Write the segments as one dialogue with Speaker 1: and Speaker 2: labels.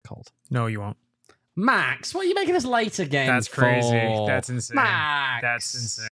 Speaker 1: cold.
Speaker 2: No, you won't.
Speaker 1: Max, what are you making us late again?
Speaker 2: That's crazy.
Speaker 1: for?
Speaker 2: That's insane.
Speaker 1: Max.
Speaker 2: That's insane.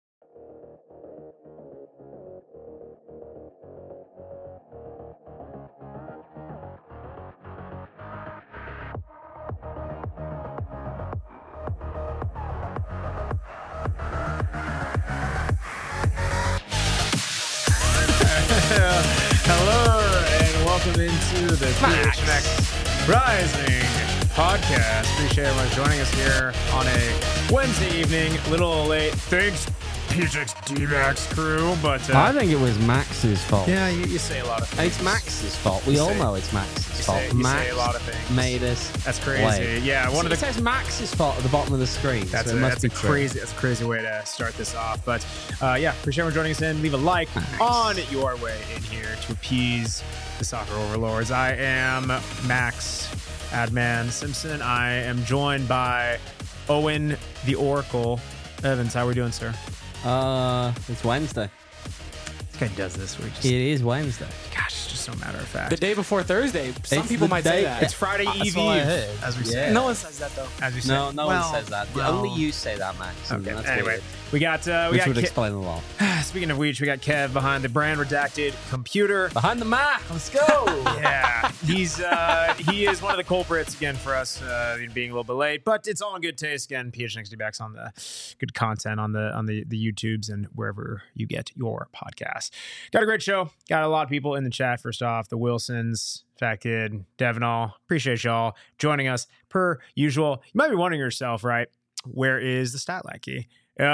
Speaker 2: Hello and welcome into the PHNX Rising podcast. Appreciate everyone joining us here on a Wednesday evening. A little late. Thanks, PHNX D-Max crew. But
Speaker 1: I think it was Max's fault.
Speaker 2: yeah, you say a lot of things.
Speaker 1: It's Max's fault. We all know it's Max's fault.
Speaker 2: You
Speaker 1: Max
Speaker 2: say a lot of things.
Speaker 1: made us.
Speaker 2: That's crazy.
Speaker 1: late.
Speaker 2: Yeah, one of
Speaker 1: It
Speaker 2: the
Speaker 1: says Max's fault at the bottom of the screen.
Speaker 2: That's
Speaker 1: so it must be true.
Speaker 2: crazy. That's a crazy way to start this off. But yeah, appreciate everyone joining us in. Leave a like
Speaker 1: Thanks.
Speaker 2: on your way in here to appease the soccer overlords. I am Max Adman Simpson. I am joined by Owen the Oracle Evans. How are we doing, sir?
Speaker 1: It's Wednesday.
Speaker 2: This guy does this. We just,
Speaker 1: It is Wednesday.
Speaker 2: gosh, it's just so matter of fact.
Speaker 3: The day before Thursday. Some
Speaker 1: It's
Speaker 3: people
Speaker 1: the
Speaker 3: might
Speaker 1: day-
Speaker 3: say that.
Speaker 2: It's Friday
Speaker 1: That's
Speaker 2: Eve,
Speaker 1: what I heard.
Speaker 2: as we
Speaker 1: Yeah.
Speaker 2: say.
Speaker 3: No one says that though.
Speaker 2: As we say.
Speaker 1: No, no
Speaker 2: Well,
Speaker 1: one says that.
Speaker 2: well,
Speaker 1: Only you say that, Max. and
Speaker 2: Okay.
Speaker 1: that's
Speaker 2: Anyway,
Speaker 1: weird.
Speaker 2: we got
Speaker 1: Which would
Speaker 2: Ke-
Speaker 1: explain a lot.
Speaker 2: speaking of which, we got Kev behind the brand redacted computer.
Speaker 1: Behind the Mac. Let's go.
Speaker 2: Yeah, he is one of the culprits again for us being a little bit late, but it's all in good taste. Again, PHNX D-Backs on the good content on the YouTubes and wherever you get your podcast. Got a great show. Got a lot of people in the chat. First off, the Wilsons, Fat Kid, Devinall. Appreciate y'all joining us per usual. You might be wondering yourself, right? Where is the stat lackey?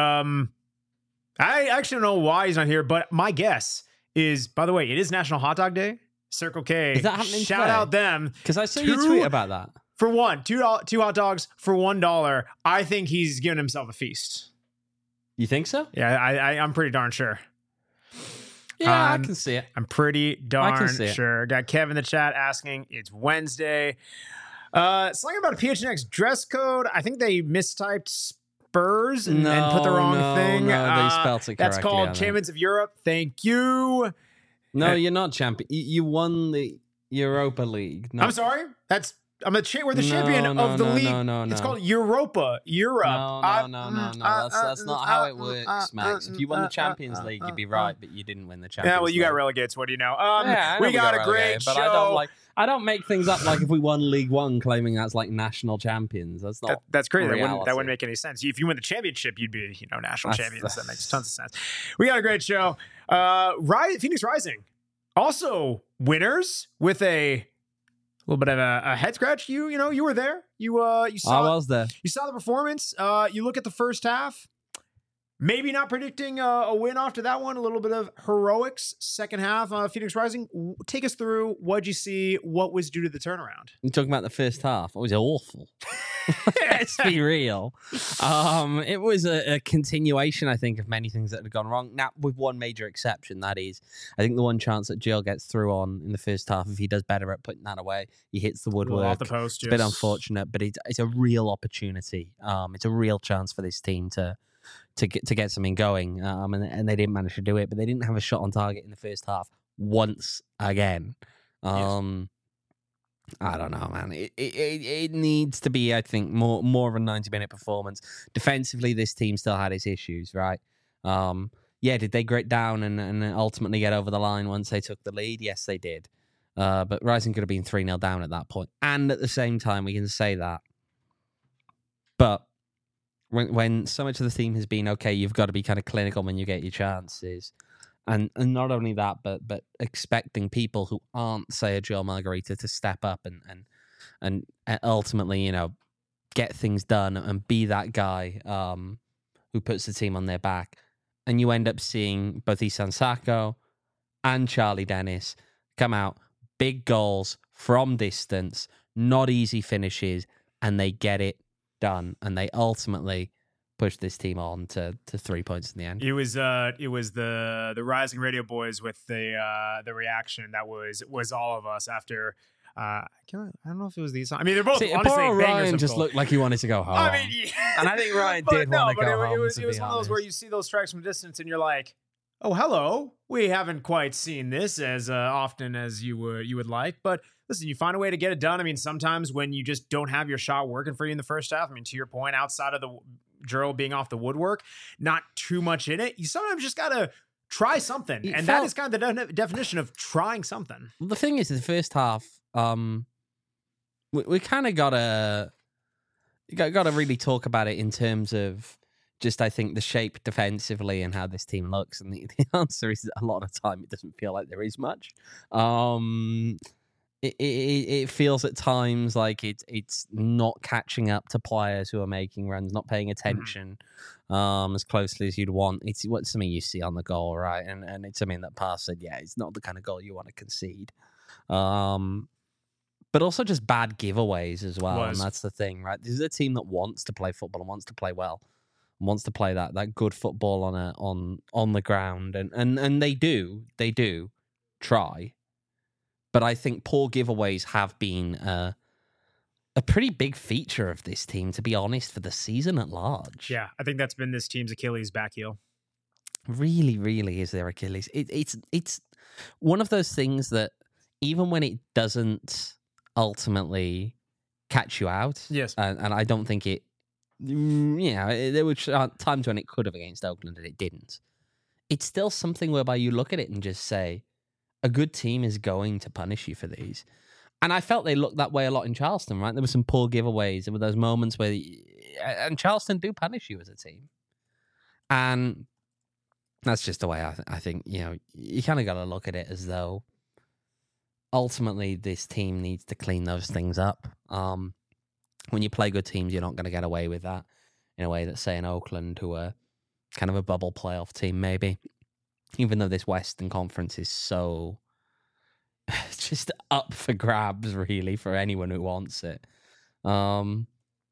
Speaker 2: I actually don't know why he's not here, but my guess is, by the way, it is National Hot Dog Day. Circle K.
Speaker 1: Is that happening
Speaker 2: Shout
Speaker 1: today?
Speaker 2: out them.
Speaker 1: Because I saw
Speaker 2: Two-
Speaker 1: you tweet about that.
Speaker 2: For one, two hot dogs for $1. I think he's giving himself a feast.
Speaker 1: You think so?
Speaker 2: Yeah, I'm pretty darn sure.
Speaker 1: Yeah, I can see it.
Speaker 2: I'm pretty darn
Speaker 1: see it.
Speaker 2: sure. Got Kev in the chat asking, it's Wednesday. Something about a PHNX dress code. I think they mistyped Spurs and put the wrong thing.
Speaker 1: No, they spelled it correctly.
Speaker 2: That's
Speaker 1: I
Speaker 2: called
Speaker 1: think.
Speaker 2: Champions of Europe. Thank you.
Speaker 1: No, you're not champion. You won the Europa League. No.
Speaker 2: I'm sorry. We're the
Speaker 1: No,
Speaker 2: champion
Speaker 1: no,
Speaker 2: of the
Speaker 1: no,
Speaker 2: league.
Speaker 1: no,
Speaker 2: It's
Speaker 1: no.
Speaker 2: called Europa. Europe.
Speaker 1: No. That's not how it works, Max. If you won the Champions League, you'd be right, but you didn't win the Champions League.
Speaker 2: Yeah, well, you got relegated. So what do you know?
Speaker 1: Yeah, I know
Speaker 2: we got a great
Speaker 1: relegated,
Speaker 2: show.
Speaker 1: But I don't make things up like if we won League One, claiming that's like national champions. That's not.
Speaker 2: That's crazy. That
Speaker 1: reality.
Speaker 2: wouldn't make any sense. If you win the championship, you'd be, national
Speaker 1: That's-
Speaker 2: champions. That makes tons of sense. We got a great show. Phoenix Rising, also winners with a little bit of a head scratch. You were there. You
Speaker 1: I
Speaker 2: saw
Speaker 1: was there.
Speaker 2: you saw the performance. You look at the first half. Maybe not predicting a win after that one. A little bit of heroics. Second half, Phoenix Rising. Take us through. What'd you see? What was due to the turnaround?
Speaker 1: You're talking about the first half. It was awful. Let's be real. It was a continuation, I think, of many things that had gone wrong. Now, with one major exception, that is, I think the one chance that Jill gets through on in the first half, if he does better at putting that away, he hits the woodwork.
Speaker 2: Off the post.
Speaker 1: It's a bit unfortunate, but it's a real opportunity. It's a real chance for this team to get something going, and they didn't manage to do it. But they didn't have a shot on target in the first half once again. I don't know, man. It needs to be, I think, more of a 90-minute performance. Defensively, this team still had its issues, right? Did they grit down and ultimately get over the line once they took the lead? Yes, they did. But Rising could have been 3-0 down at that point. And at the same time, we can say that. But when so much of the theme has been, okay, you've got to be kind of clinical when you get your chances. And not only that, but expecting people who aren't, say, a Joe Margarita to step up and ultimately, get things done and be that guy who puts the team on their back. And you end up seeing both Isan Sako and Charlie Dennis come out, big goals from distance, not easy finishes, and they get it done. And they ultimately push this team on to 3 points in the end.
Speaker 2: It was the Rising Radio boys with the reaction that was all of us after. I don't know if it was these. I mean, they're both honestly
Speaker 1: poor
Speaker 2: bangers.
Speaker 1: Ryan
Speaker 2: of
Speaker 1: just
Speaker 2: goals.
Speaker 1: looked like he wanted to go home.
Speaker 2: I mean, yeah.
Speaker 1: And I think Ryan
Speaker 2: But
Speaker 1: did want to go home.
Speaker 2: It was
Speaker 1: to
Speaker 2: one
Speaker 1: be
Speaker 2: of those where
Speaker 1: honest.
Speaker 2: you see those strikes from distance and you're like, oh, hello. We haven't quite seen this as often as you would like, but listen, you find a way to get it done. I mean, sometimes when you just don't have your shot working for you in the first half, I mean, to your point, outside of the Gerald being off the woodwork, not too much in it, you sometimes just got to try something. And that is kind of the definition of trying something.
Speaker 1: Well, the thing is, in the first half, we kind of gotta really talk about it in terms of just, I think, the shape defensively and how this team looks. And the answer is a lot of the time it doesn't feel like there is much. It feels at times like it's not catching up to players who are making runs, not paying attention as closely as you'd want. It's something you see on the goal, right? And it's something that Parr said, yeah, it's not the kind of goal you want to concede. But also just bad giveaways as well. And that's the thing, right? This is a team that wants to play football and wants to play well, and wants to play that good football on the ground. And they do try. But I think poor giveaways have been a pretty big feature of this team, to be honest, for the season at large.
Speaker 2: Yeah, I think that's been this team's Achilles back heel.
Speaker 1: Really, really is their Achilles. It's one of those things that even when it doesn't ultimately catch you out,
Speaker 2: yes,
Speaker 1: and I don't think it, there were times when it could have against Oakland and it didn't. It's still something whereby you look at it and just say, a good team is going to punish you for these. And I felt they looked that way a lot in Charleston, right? There were some poor giveaways. There were those moments where... And Charleston do punish you as a team. And that's just the way I think, you kind of got to look at it as though ultimately this team needs to clean those things up. When you play good teams, you're not going to get away with that in a way that, say, in Oakland, who are kind of a bubble playoff team, maybe. Even though this Western Conference is so just up for grabs, really, for anyone who wants it. A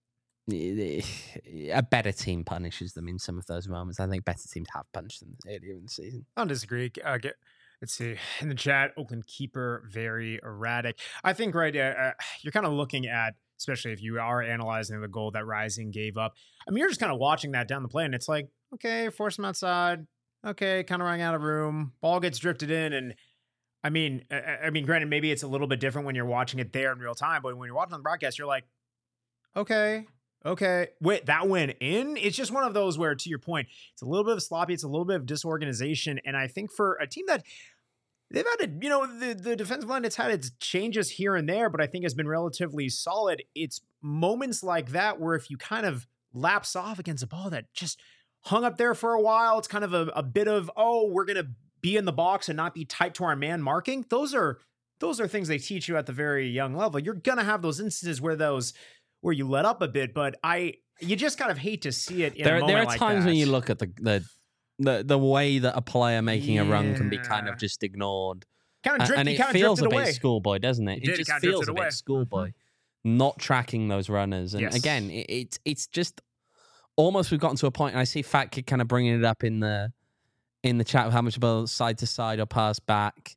Speaker 1: better team punishes them in some of those moments. I think better teams have punished them earlier in the season.
Speaker 2: I don't disagree. Let's see. In the chat, Oakland keeper, very erratic. I think, right, you're kind of looking at, especially if you are analyzing the goal that Rising gave up. I mean, you're just kind of watching that down the play, and it's like, okay, force him outside. Okay, kind of running out of room. Ball gets drifted in, and I mean, granted, maybe it's a little bit different when you're watching it there in real time, but when you're watching on the broadcast, you're like, okay, wait, that went in? It's just one of those where, to your point, it's a little bit of sloppy, it's a little bit of disorganization, and I think for a team that they've had, the defensive line, it's had its changes here and there, but I think has been relatively solid. It's moments like that where if you kind of lapse off against a ball that just hung up there for a while, it's kind of a bit of, we're going to be in the box and not be tight to our man marking. Those are things they teach you at the very young level. You're going to have those instances where you let up a bit, but you just kind of hate to see it in a moment like that.
Speaker 1: There are times when you look at the way that a player making a run can be kind of just ignored.
Speaker 2: Kind of drifted,
Speaker 1: and it feels a bit schoolboy, doesn't it? It just feels a bit schoolboy. Not tracking those runners. And again, it's just almost we've gotten to a point, and I see Fat Kid kind of bringing it up in the chat of how much about side to side or pass back,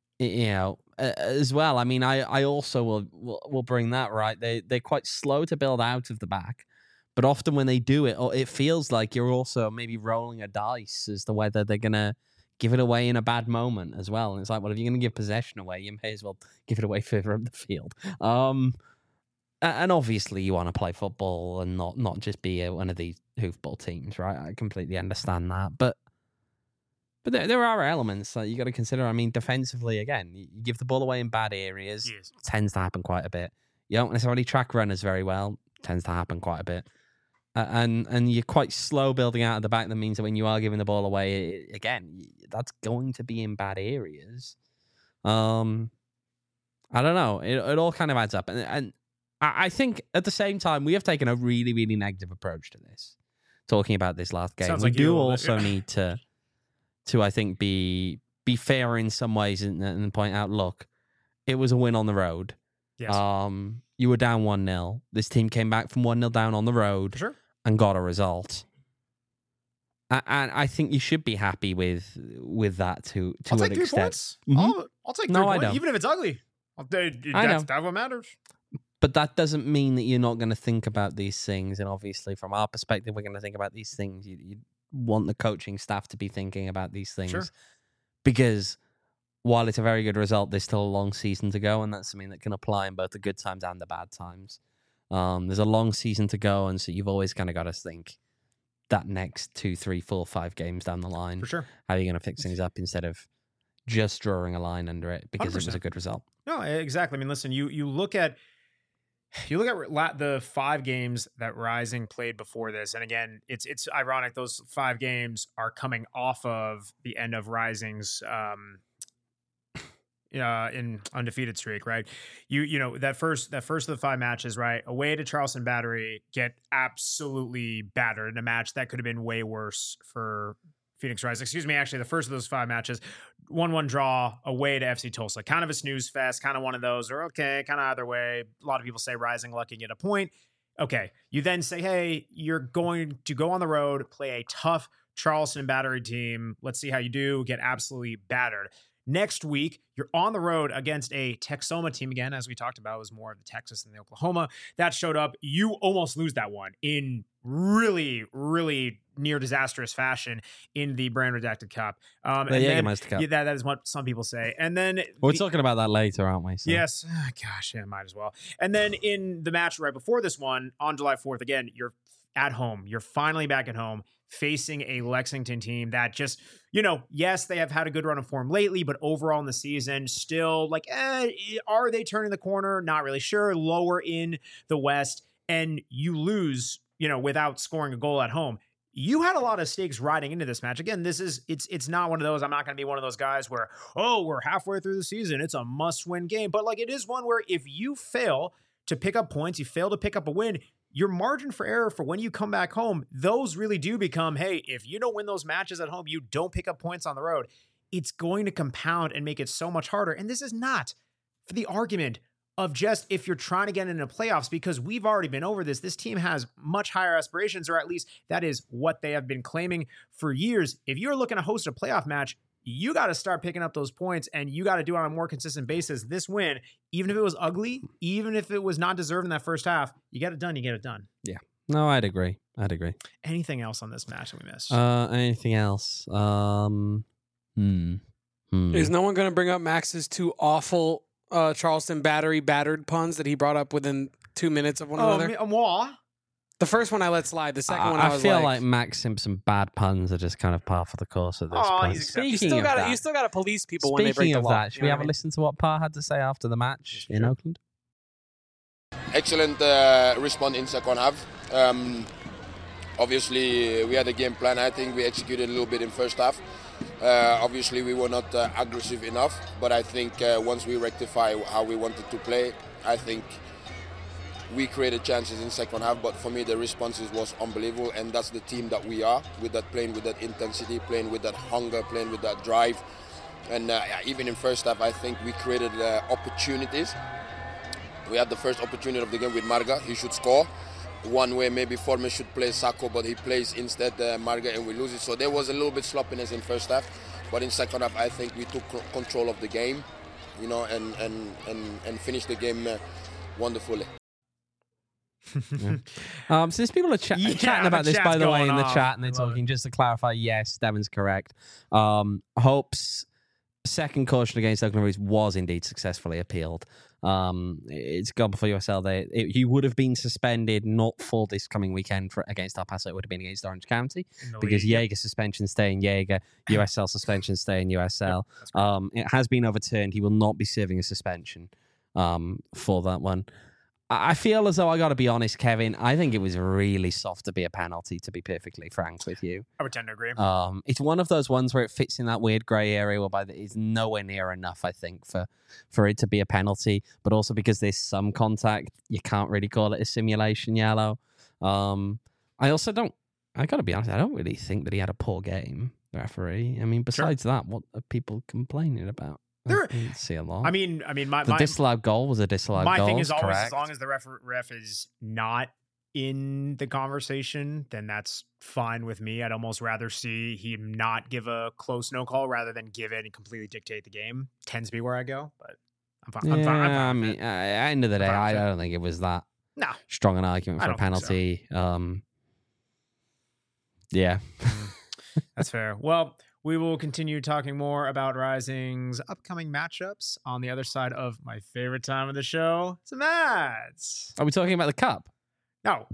Speaker 1: as well. I mean, I also will bring that, right. They're quite slow to build out of the back, but often when they do it, it feels like you're also maybe rolling a dice as to whether they're gonna give it away in a bad moment as well. And it's like, well, if you're gonna give possession away, you may as well give it away further up the field. And obviously you want to play football and not just be one of these hoofball teams, right? I completely understand that. But there are elements that you got to consider. I mean, defensively, again, you give the ball away in bad areas. Yes. Tends to happen quite a bit. You don't necessarily track runners very well. Tends to happen quite a bit. And you're quite slow building out of the back. That means that when you are giving the ball away, again, that's going to be in bad areas. I don't know. It all kind of adds up. And I think at the same time, we have taken a really, really negative approach to this. Talking about this last game, we do also need to I think be fair in some ways and point out, look, it was a win on the road.
Speaker 2: Yes.
Speaker 1: You were down 1-0. This team came back from 1-0 down on the road and got a result. And I think you should be happy with that to
Speaker 2: I'll
Speaker 1: an
Speaker 2: take 3
Speaker 1: extent.
Speaker 2: Points. I'll take 3 points. I don't. Even if it's ugly. That's what matters.
Speaker 1: But that doesn't mean that you're not going to think about these things. And obviously, from our perspective, we're going to think about these things. You want the coaching staff to be thinking about these things. Because while it's a very good result, there's still a long season to go, and that's something that can apply in both the good times and the bad times. There's a long season to go, and so you've always kind of got to think that next 2, 3, 4, 5 games down the line.
Speaker 2: For sure.
Speaker 1: How are you going to fix things up instead of just drawing a line under it because
Speaker 2: 100%.
Speaker 1: it was a good result?
Speaker 2: No, exactly. I mean, listen, you look at the 5 games that Rising played before this, and again, it's ironic. Those 5 games are coming off of the end of Rising's in undefeated streak, right? You know that first of the 5 matches, right? Away to Charleston Battery, get absolutely battered in a match that could have been way worse for Phoenix Rising. Excuse me, actually, the first of those 5 matches, 1-1 draw away to FC Tulsa. Kind of a snooze fest, kind of one of those, or okay, kind of either way. A lot of people say Rising lucky get a point. Okay, you then say, hey, you're going to go on the road, play a tough Charleston Battery team. Let's see how you do. Get absolutely battered. Next week, you're on the road against a Texoma team again, as we talked about, it was more of the Texas than the Oklahoma. That showed up. You almost lose that one in really, really near disastrous fashion in the Brand Redacted Cup.
Speaker 1: The Jägermeister Cup.
Speaker 2: Yeah, that is what some people say. And then
Speaker 1: We're talking about that later, aren't we? So.
Speaker 2: Yes. Oh, gosh, yeah, might as well. And then in the match right before this one, on July 4th, again, you're at home. You're finally back at home, facing a Lexington team that just, yes, they have had a good run of form lately, but overall in the season, still like, are they turning the corner? Not really sure. Lower in the West, and you lose, without scoring a goal at home. You had a lot of stakes riding into this match. Again, it's not one of those, I'm not going to be one of those guys where, we're halfway through the season, it's a must-win game. But like, it is one where if you fail to pick up points, you fail to pick up a win, your margin for error for when you come back home, those really do become, hey, if you don't win those matches at home, you don't pick up points on the road, it's going to compound and make it so much harder. And this is not for the argument of just if you're trying to get into playoffs, because we've already been over this. This team has much higher aspirations, or at least that is what they have been claiming for years. If you're looking to host a playoff match, you got to start picking up those points, and you got to do it on a more consistent basis. This win, even if it was ugly, even if it was not deserved in that first half, you get it done. You get it done.
Speaker 1: Yeah. No, I'd agree.
Speaker 2: Anything else on this match that we missed?
Speaker 1: Anything else?
Speaker 3: Is no one going to bring up Max's 2 awful Charleston battered puns that he brought up within 2 minutes of one another?
Speaker 2: Moi?
Speaker 3: The first one I let slide. The second one I was
Speaker 1: feel like Max Simpson bad puns are just kind of par for the course at this point.
Speaker 3: You still got to police people when they break the law.
Speaker 1: Speaking of that, should we have a listen to what Parr had to say after the match in Oakland?
Speaker 4: Excellent response in second half. Obviously, we had a game plan. I think we executed a little bit in first half. Obviously, we were not aggressive enough, but I think once we rectify how we wanted to play, I think we created chances in second half. But for me, the responses was unbelievable, and that's the team that we are, with that playing with that intensity, playing with that hunger, playing with that drive. And even in first half, I think we created opportunities. We had the first opportunity of the game with Marga. He should score. One way maybe Forman should play Sacco, but he plays instead Marga, and we lose it. So there was a little bit sloppiness in first half, but in second half I think we took control of the game, and finished the game wondefully.
Speaker 1: Since people are chatting about this, by the way, in the chat, and they're talking, just to clarify, yes, Devin's correct. Hope's second caution against Oakland Raiders was indeed successfully appealed. It's gone before USL. He would have been suspended not for this coming weekend against El Paso. It would have been against Orange County because Jaeger suspension stay in Jaeger, USL suspension stay in USL. It has been overturned. He will not be serving a suspension for that one. I feel as though I got to be honest, Kevin. I think it was really soft to be a penalty, to be perfectly frank with you.
Speaker 2: I would tend to agree.
Speaker 1: It's one of those ones where it fits in that weird grey area whereby it's nowhere near enough, I think, for it to be a penalty. But also because there's some contact, you can't really call it a simulation yellow. I also I got to be honest, I don't really think that he had a poor game, the referee. I mean, besides that, what are people complaining about? I didn't see a lot.
Speaker 2: I mean,
Speaker 1: the disallowed goal was a disallowed goal.
Speaker 2: My thing is always,
Speaker 1: correct.
Speaker 2: as long as the ref is not in the conversation, then that's fine with me. I'd almost rather see him not give a close no call rather than give it and completely dictate the game. Tends to be where I go, but I'm fine. I'm fine.
Speaker 1: I mean, at the end of the day, I don't think it was that strong an argument for a penalty. Yeah.
Speaker 2: That's fair. Well, we will continue talking more about Rising's upcoming matchups on the other side of my favorite time of the show. It's Mads.
Speaker 1: Are we talking about the cup?
Speaker 2: No.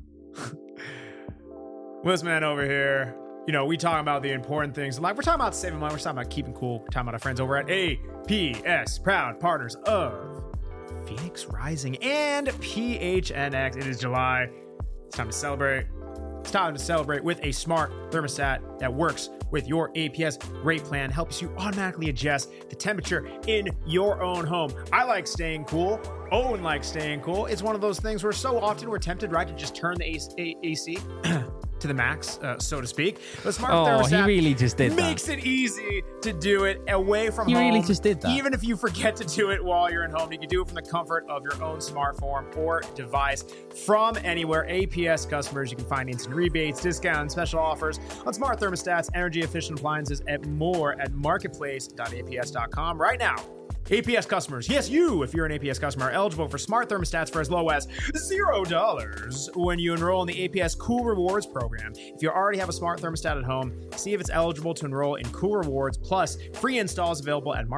Speaker 2: This man over here, you know, we talking about the important things. Like, we're talking about saving money. We're talking about keeping cool. We're talking about our friends over at APS, proud partners of Phoenix Rising and PHNX. It is July. It's time to celebrate. It's time to celebrate with a smart thermostat that works with your APS rate plan, helps you automatically adjust the temperature in your own home. I like staying cool. Owen likes staying cool. It's one of those things where so often we're tempted, right, to just turn the AC to the max, so to speak. The smart thermostat
Speaker 1: he really just did
Speaker 2: makes it easy to do it away from home.
Speaker 1: He really just did that.
Speaker 2: Even if you forget to do it while you're at home, you can do it from the comfort of your own smartphone or device from anywhere. APS customers, you can find instant rebates, discounts, special offers on smart thermostats, energy efficient appliances, and more at marketplace.aps.com right now. APS customers, yes, you, if you're an APS customer, are eligible for smart thermostats for as low as $0 when you enroll in the APS Cool Rewards program. If you already have a smart thermostat at home, see if it's eligible to enroll in Cool Rewards, plus free installs available at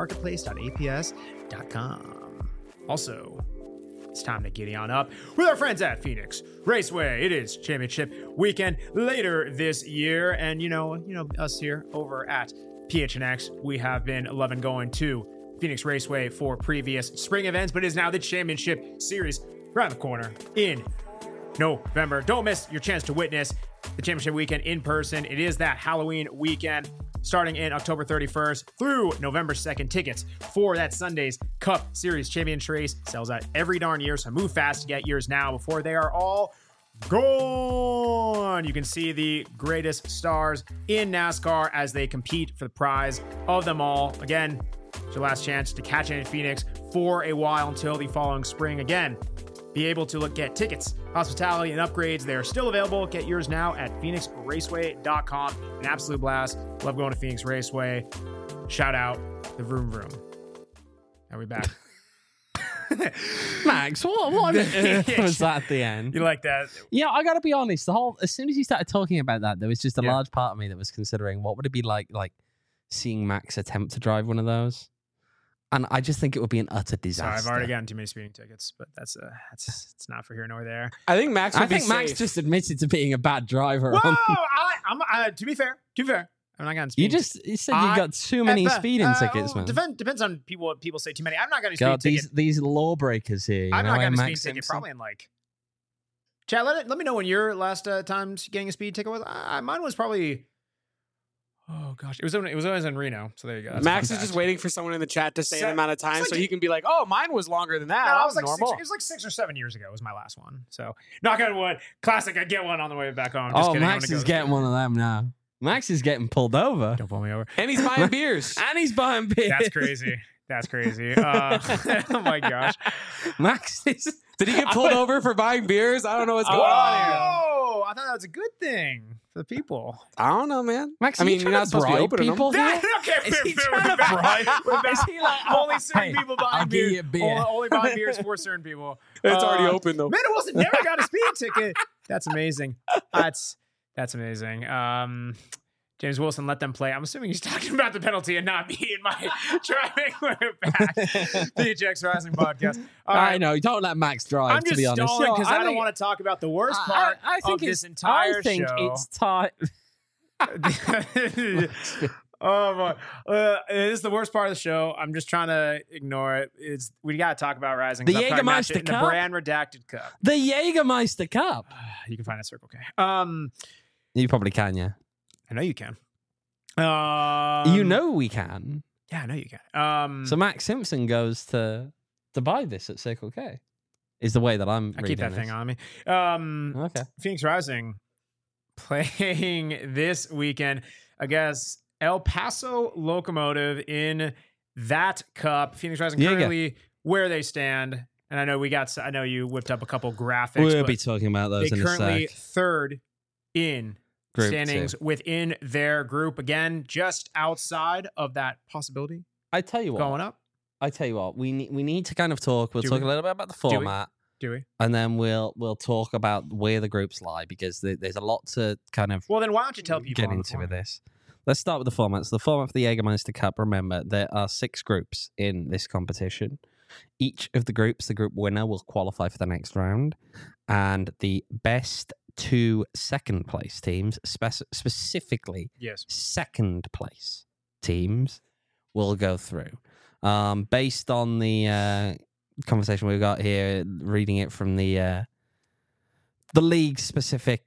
Speaker 2: marketplace.aps.com. Also, it's time to giddy on up with our friends at Phoenix Raceway. It is championship weekend later this year, and you know us here over at PHNX, we have been loving going to Phoenix Raceway for previous spring events, but it is now the championship series around the corner in November. Don't miss your chance to witness the championship weekend in person. It is that Halloween weekend starting in October 31st through November 2nd. Tickets for that Sunday's Cup Series Championship race sells out every darn year, so move fast to get yours now before they are all gone. You can see the greatest stars in NASCAR as they compete for the prize of them all. Again, it's your last chance to catch it in Phoenix for a while until the following spring. Again, be able to get tickets, hospitality, and upgrades. They are still available. Get yours now at phoenixraceway.com. An absolute blast. Love going to Phoenix Raceway. Shout out the Vroom Vroom. Are we back?
Speaker 1: Max, what was that at the end?
Speaker 2: You like that?
Speaker 1: Yeah, I gotta be honest. As soon as you started talking about that, there was just a large part of me that was considering what would it be like seeing Max attempt to drive one of those. And I just think it would be an utter disaster.
Speaker 2: Sorry, I've already gotten too many speeding tickets, but that's it's not for here nor there.
Speaker 3: I think Max would be safe.
Speaker 1: Max just admitted to being a bad driver.
Speaker 2: Whoa! To be fair, I'm not getting speeding.
Speaker 1: You said you got too many speeding tickets, man.
Speaker 2: Depends on people. What people say too many. I'm not getting a speeding ticket.
Speaker 1: These lawbreakers here.
Speaker 2: I'm not getting a speeding ticket. Probably in like. Chad, let me know when your last time getting a speeding ticket was. Mine was probably. Oh gosh, it was always in Reno. So there you go. That's
Speaker 3: Max is just waiting for someone in the chat to say an amount of time, so he can be like, "Oh, mine was longer than that."
Speaker 2: No,
Speaker 3: that
Speaker 2: was like
Speaker 3: normal.
Speaker 2: it was like 6 or 7 years ago. Was my last one. So knock on wood. Classic. I get one on the way back home. Just kidding.
Speaker 1: Max is getting one of them now. Max is getting pulled over.
Speaker 2: Don't pull me over.
Speaker 3: And he's buying beers.
Speaker 1: And he's buying beers.
Speaker 2: That's crazy. That's crazy. Oh my gosh.
Speaker 1: Max is.
Speaker 3: Did he get pulled over for buying beers? I don't know what's going on here.
Speaker 2: Oh, I thought that was a good thing for the people.
Speaker 3: I don't know, man.
Speaker 1: Max,
Speaker 3: I mean, you're not supposed to be opening
Speaker 1: people
Speaker 3: them.
Speaker 1: here? Is he trying to bribe? Is he like,
Speaker 2: only certain people buying
Speaker 1: I'll
Speaker 2: beers?
Speaker 1: give you a beer.
Speaker 2: Only buying beers for certain people.
Speaker 3: It's already open though.
Speaker 2: Man, it wasn't. Never got a speeding ticket. That's amazing. That's amazing. James Wilson, let them play. I'm assuming he's talking about the penalty and not me in my driving back. PHX Rising podcast.
Speaker 1: I know. Don't let Max drive,
Speaker 2: I'm just
Speaker 1: to be honest.
Speaker 2: stalling because I don't want to talk about the worst part of this entire show.
Speaker 1: I think it's time.
Speaker 2: Oh my! It is the worst part of the show. I'm just trying to ignore it. We got to talk about Rising.
Speaker 1: The Jägermeister Cup,
Speaker 2: the brand redacted cup.
Speaker 1: The Jägermeister Cup.
Speaker 2: You can find that Circle K.
Speaker 1: You probably can, yeah.
Speaker 2: I know you can.
Speaker 1: You know we can.
Speaker 2: Yeah, I know you can.
Speaker 1: So Max Simpson goes to buy this at Circle K. Is the way that I
Speaker 2: keep that thing on me.
Speaker 1: Okay.
Speaker 2: Phoenix Rising playing this weekend against El Paso Locomotive in that cup. Phoenix Rising currently where they stand, and I know you whipped up a couple graphics.
Speaker 1: We'll be talking about those in a sec.
Speaker 2: They currently third in
Speaker 1: Group
Speaker 2: standings
Speaker 1: 2.
Speaker 2: Within their group. Again, just outside of that possibility.
Speaker 1: I tell you what.
Speaker 2: Going up.
Speaker 1: I tell you what. We need to kind of talk. We'll talk a little bit about the format.
Speaker 2: Do we?
Speaker 1: And then we'll talk about where the groups lie because there's a lot to kind of.
Speaker 2: Well, then why don't you tell people
Speaker 1: get into with this? let's start with the format. So the format for the Jägermeister Cup, remember, there are 6 groups in this competition. Each of the groups, the group winner will qualify for the next round, and the best 2 second place teams, specifically
Speaker 2: Yes.
Speaker 1: second place teams, will go through. Based on the conversation we've got here, reading it from the league specific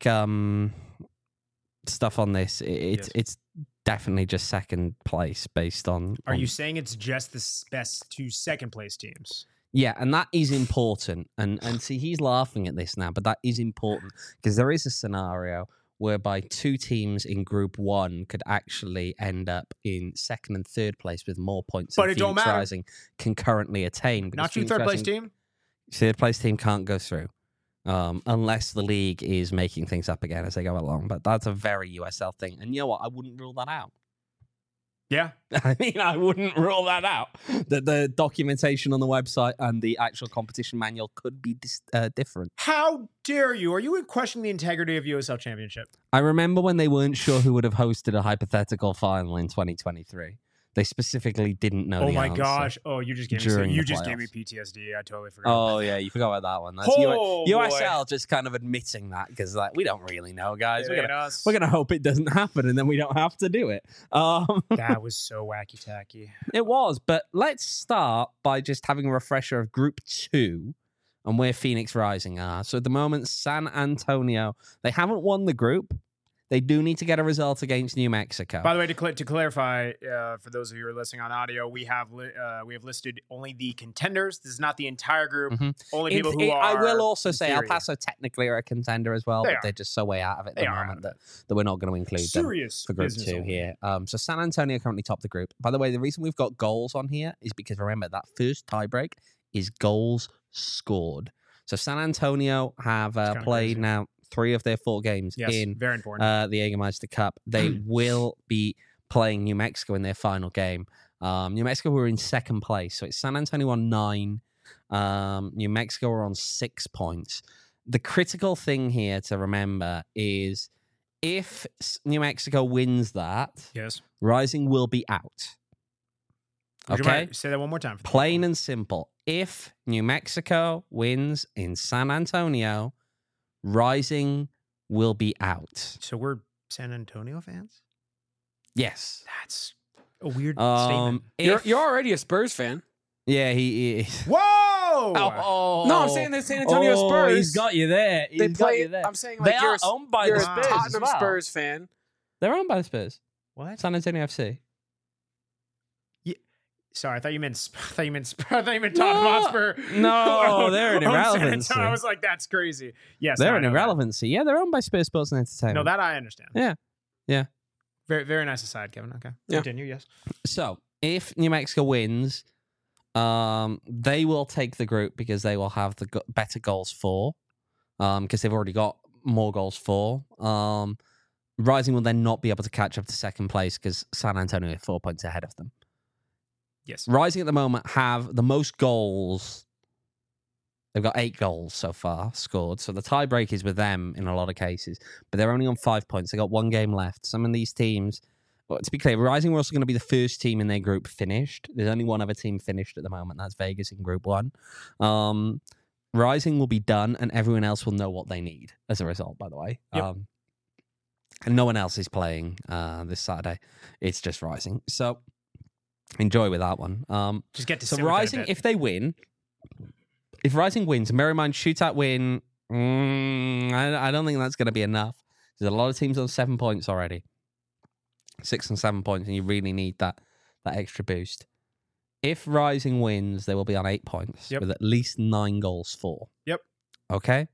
Speaker 1: stuff on this, it's definitely just second place based on.
Speaker 2: Are you saying it's just the best 2 second place teams?
Speaker 1: Yeah, and that is important. And see, he's laughing at this now, but that is important because there is a scenario whereby 2 teams in Group 1 could actually end up in second and third place with more points
Speaker 2: But
Speaker 1: than
Speaker 2: it don't
Speaker 1: Phoenix
Speaker 2: matter.
Speaker 1: Rising can currently attain.
Speaker 2: Not
Speaker 1: Phoenix
Speaker 2: third place
Speaker 1: Rising-
Speaker 2: team?
Speaker 1: Third place team can't go through unless the league is making things up again as they go along. But that's a very USL thing. And you know what? I wouldn't rule that out.
Speaker 2: Yeah.
Speaker 1: I mean, I wouldn't rule that out. The documentation on the website and the actual competition manual could be different.
Speaker 2: How dare you? Are you questioning the integrity of USL Championship?
Speaker 1: I remember when they weren't sure who would have hosted a hypothetical final in 2023. They specifically didn't know
Speaker 2: Oh
Speaker 1: the
Speaker 2: my
Speaker 1: answer.
Speaker 2: gosh. Oh, you just gave me
Speaker 1: during the
Speaker 2: gave me PTSD. I totally forgot.
Speaker 1: Oh, yeah, you forgot about that one. That's
Speaker 2: Oh,
Speaker 1: USL just kind of admitting that because like, we don't really know, guys.
Speaker 2: It
Speaker 1: We're
Speaker 2: ain't
Speaker 1: gonna,
Speaker 2: us.
Speaker 1: we're gonna hope it doesn't happen and then we don't have to do it.
Speaker 2: That was so wacky tacky.
Speaker 1: It was, but let's start by just having a refresher of Group 2 and where Phoenix Rising are. So at the moment, San Antonio, they haven't won the group. They do need to get a result against New Mexico.
Speaker 2: By the way, to clarify, for those of you who are listening on audio, we have listed only the contenders. This is not the entire group.
Speaker 1: Mhm.
Speaker 2: Only people who are.
Speaker 1: I will also say El
Speaker 2: inferior.
Speaker 1: Paso technically are a contender as well,
Speaker 2: They
Speaker 1: but
Speaker 2: are.
Speaker 1: they're just so way out of it at
Speaker 2: They
Speaker 1: the
Speaker 2: are
Speaker 1: moment
Speaker 2: out of
Speaker 1: that we're not going to include them
Speaker 2: Serious
Speaker 1: for Group
Speaker 2: business
Speaker 1: 2
Speaker 2: only.
Speaker 1: here. So San Antonio currently top the group. By the way, the reason we've got goals on here is because remember that first tiebreak is goals scored. So San Antonio have
Speaker 2: kinda
Speaker 1: played
Speaker 2: crazy.
Speaker 1: now 3 of their 4 games
Speaker 2: Yes,
Speaker 1: in
Speaker 2: very important.
Speaker 1: the Jägermeister Cup. They will be playing New Mexico in their final game. New Mexico were in second place, so it's San Antonio on 9. New Mexico are on 6 points. The critical thing here to remember is if New Mexico wins that,
Speaker 2: Yes.
Speaker 1: Rising will be out.
Speaker 2: Would you
Speaker 1: Okay?
Speaker 2: mind- say that one more time. For the
Speaker 1: Plain
Speaker 2: people?
Speaker 1: and simple. If New Mexico wins in San Antonio, Rising will be out.
Speaker 2: So we're San Antonio fans?
Speaker 1: Yes.
Speaker 2: That's a weird statement.
Speaker 3: You're already a Spurs fan.
Speaker 1: Yeah, he is.
Speaker 2: Whoa!
Speaker 1: Oh,
Speaker 3: No, I'm saying the San Antonio Spurs.
Speaker 1: He's got you there.
Speaker 3: They
Speaker 1: He's got
Speaker 3: play.
Speaker 1: you there.
Speaker 3: I'm saying
Speaker 1: They
Speaker 3: like you're
Speaker 1: are owned by
Speaker 3: you're
Speaker 1: the
Speaker 3: a
Speaker 1: Spurs as
Speaker 3: Tottenham
Speaker 1: well.
Speaker 3: Spurs fan.
Speaker 1: They're owned by the Spurs.
Speaker 2: What?
Speaker 1: San Antonio FC.
Speaker 2: Sorry, I thought you meant. I thought you meant Tottenham Hotspur.
Speaker 1: No, they're an
Speaker 2: Oh, San
Speaker 1: irrelevancy.
Speaker 2: Antonio. I was like, that's crazy. Yes,
Speaker 1: They're
Speaker 2: I
Speaker 1: an
Speaker 2: know that.
Speaker 1: irrelevancy. Yeah, they're owned by Spurs Sports and Entertainment.
Speaker 2: No, that I understand.
Speaker 1: Yeah.
Speaker 2: Very, very nice aside, Kevin. Okay.
Speaker 3: Yeah.
Speaker 2: Continue. Yes.
Speaker 1: So, if New Mexico wins, they will take the group because they will have the better goals for, because they've already got more goals for. Rising will then not be able to catch up to second place because San Antonio are 4 points ahead of them.
Speaker 2: Yes.
Speaker 1: Rising at the moment have the most goals. They've got 8 goals so far scored. So the tiebreak is with them in a lot of cases. But they're only on 5 points. They've got 1 game left. Some of these teams, well, to be clear, Rising were also going to be the first team in their group finished. There's only one other team finished at the moment. That's Vegas in Group 1. Rising will be done and everyone else will know what they need as a result, by the way.
Speaker 2: Yep.
Speaker 1: And no one else is playing this Saturday. It's just Rising. So enjoy with that one.
Speaker 2: Just get to
Speaker 1: So
Speaker 2: sit with it a
Speaker 1: Rising,
Speaker 2: bit.
Speaker 1: if they win, if Rising wins, bear in mind, shootout win, I don't think that's going to be enough. There's a lot of teams on 7 points already. 6 and 7 points, and you really need that extra boost. If Rising wins, they will be on 8 points
Speaker 2: Yep.
Speaker 1: with at least 9 goals for.
Speaker 2: Yep.
Speaker 1: Okay?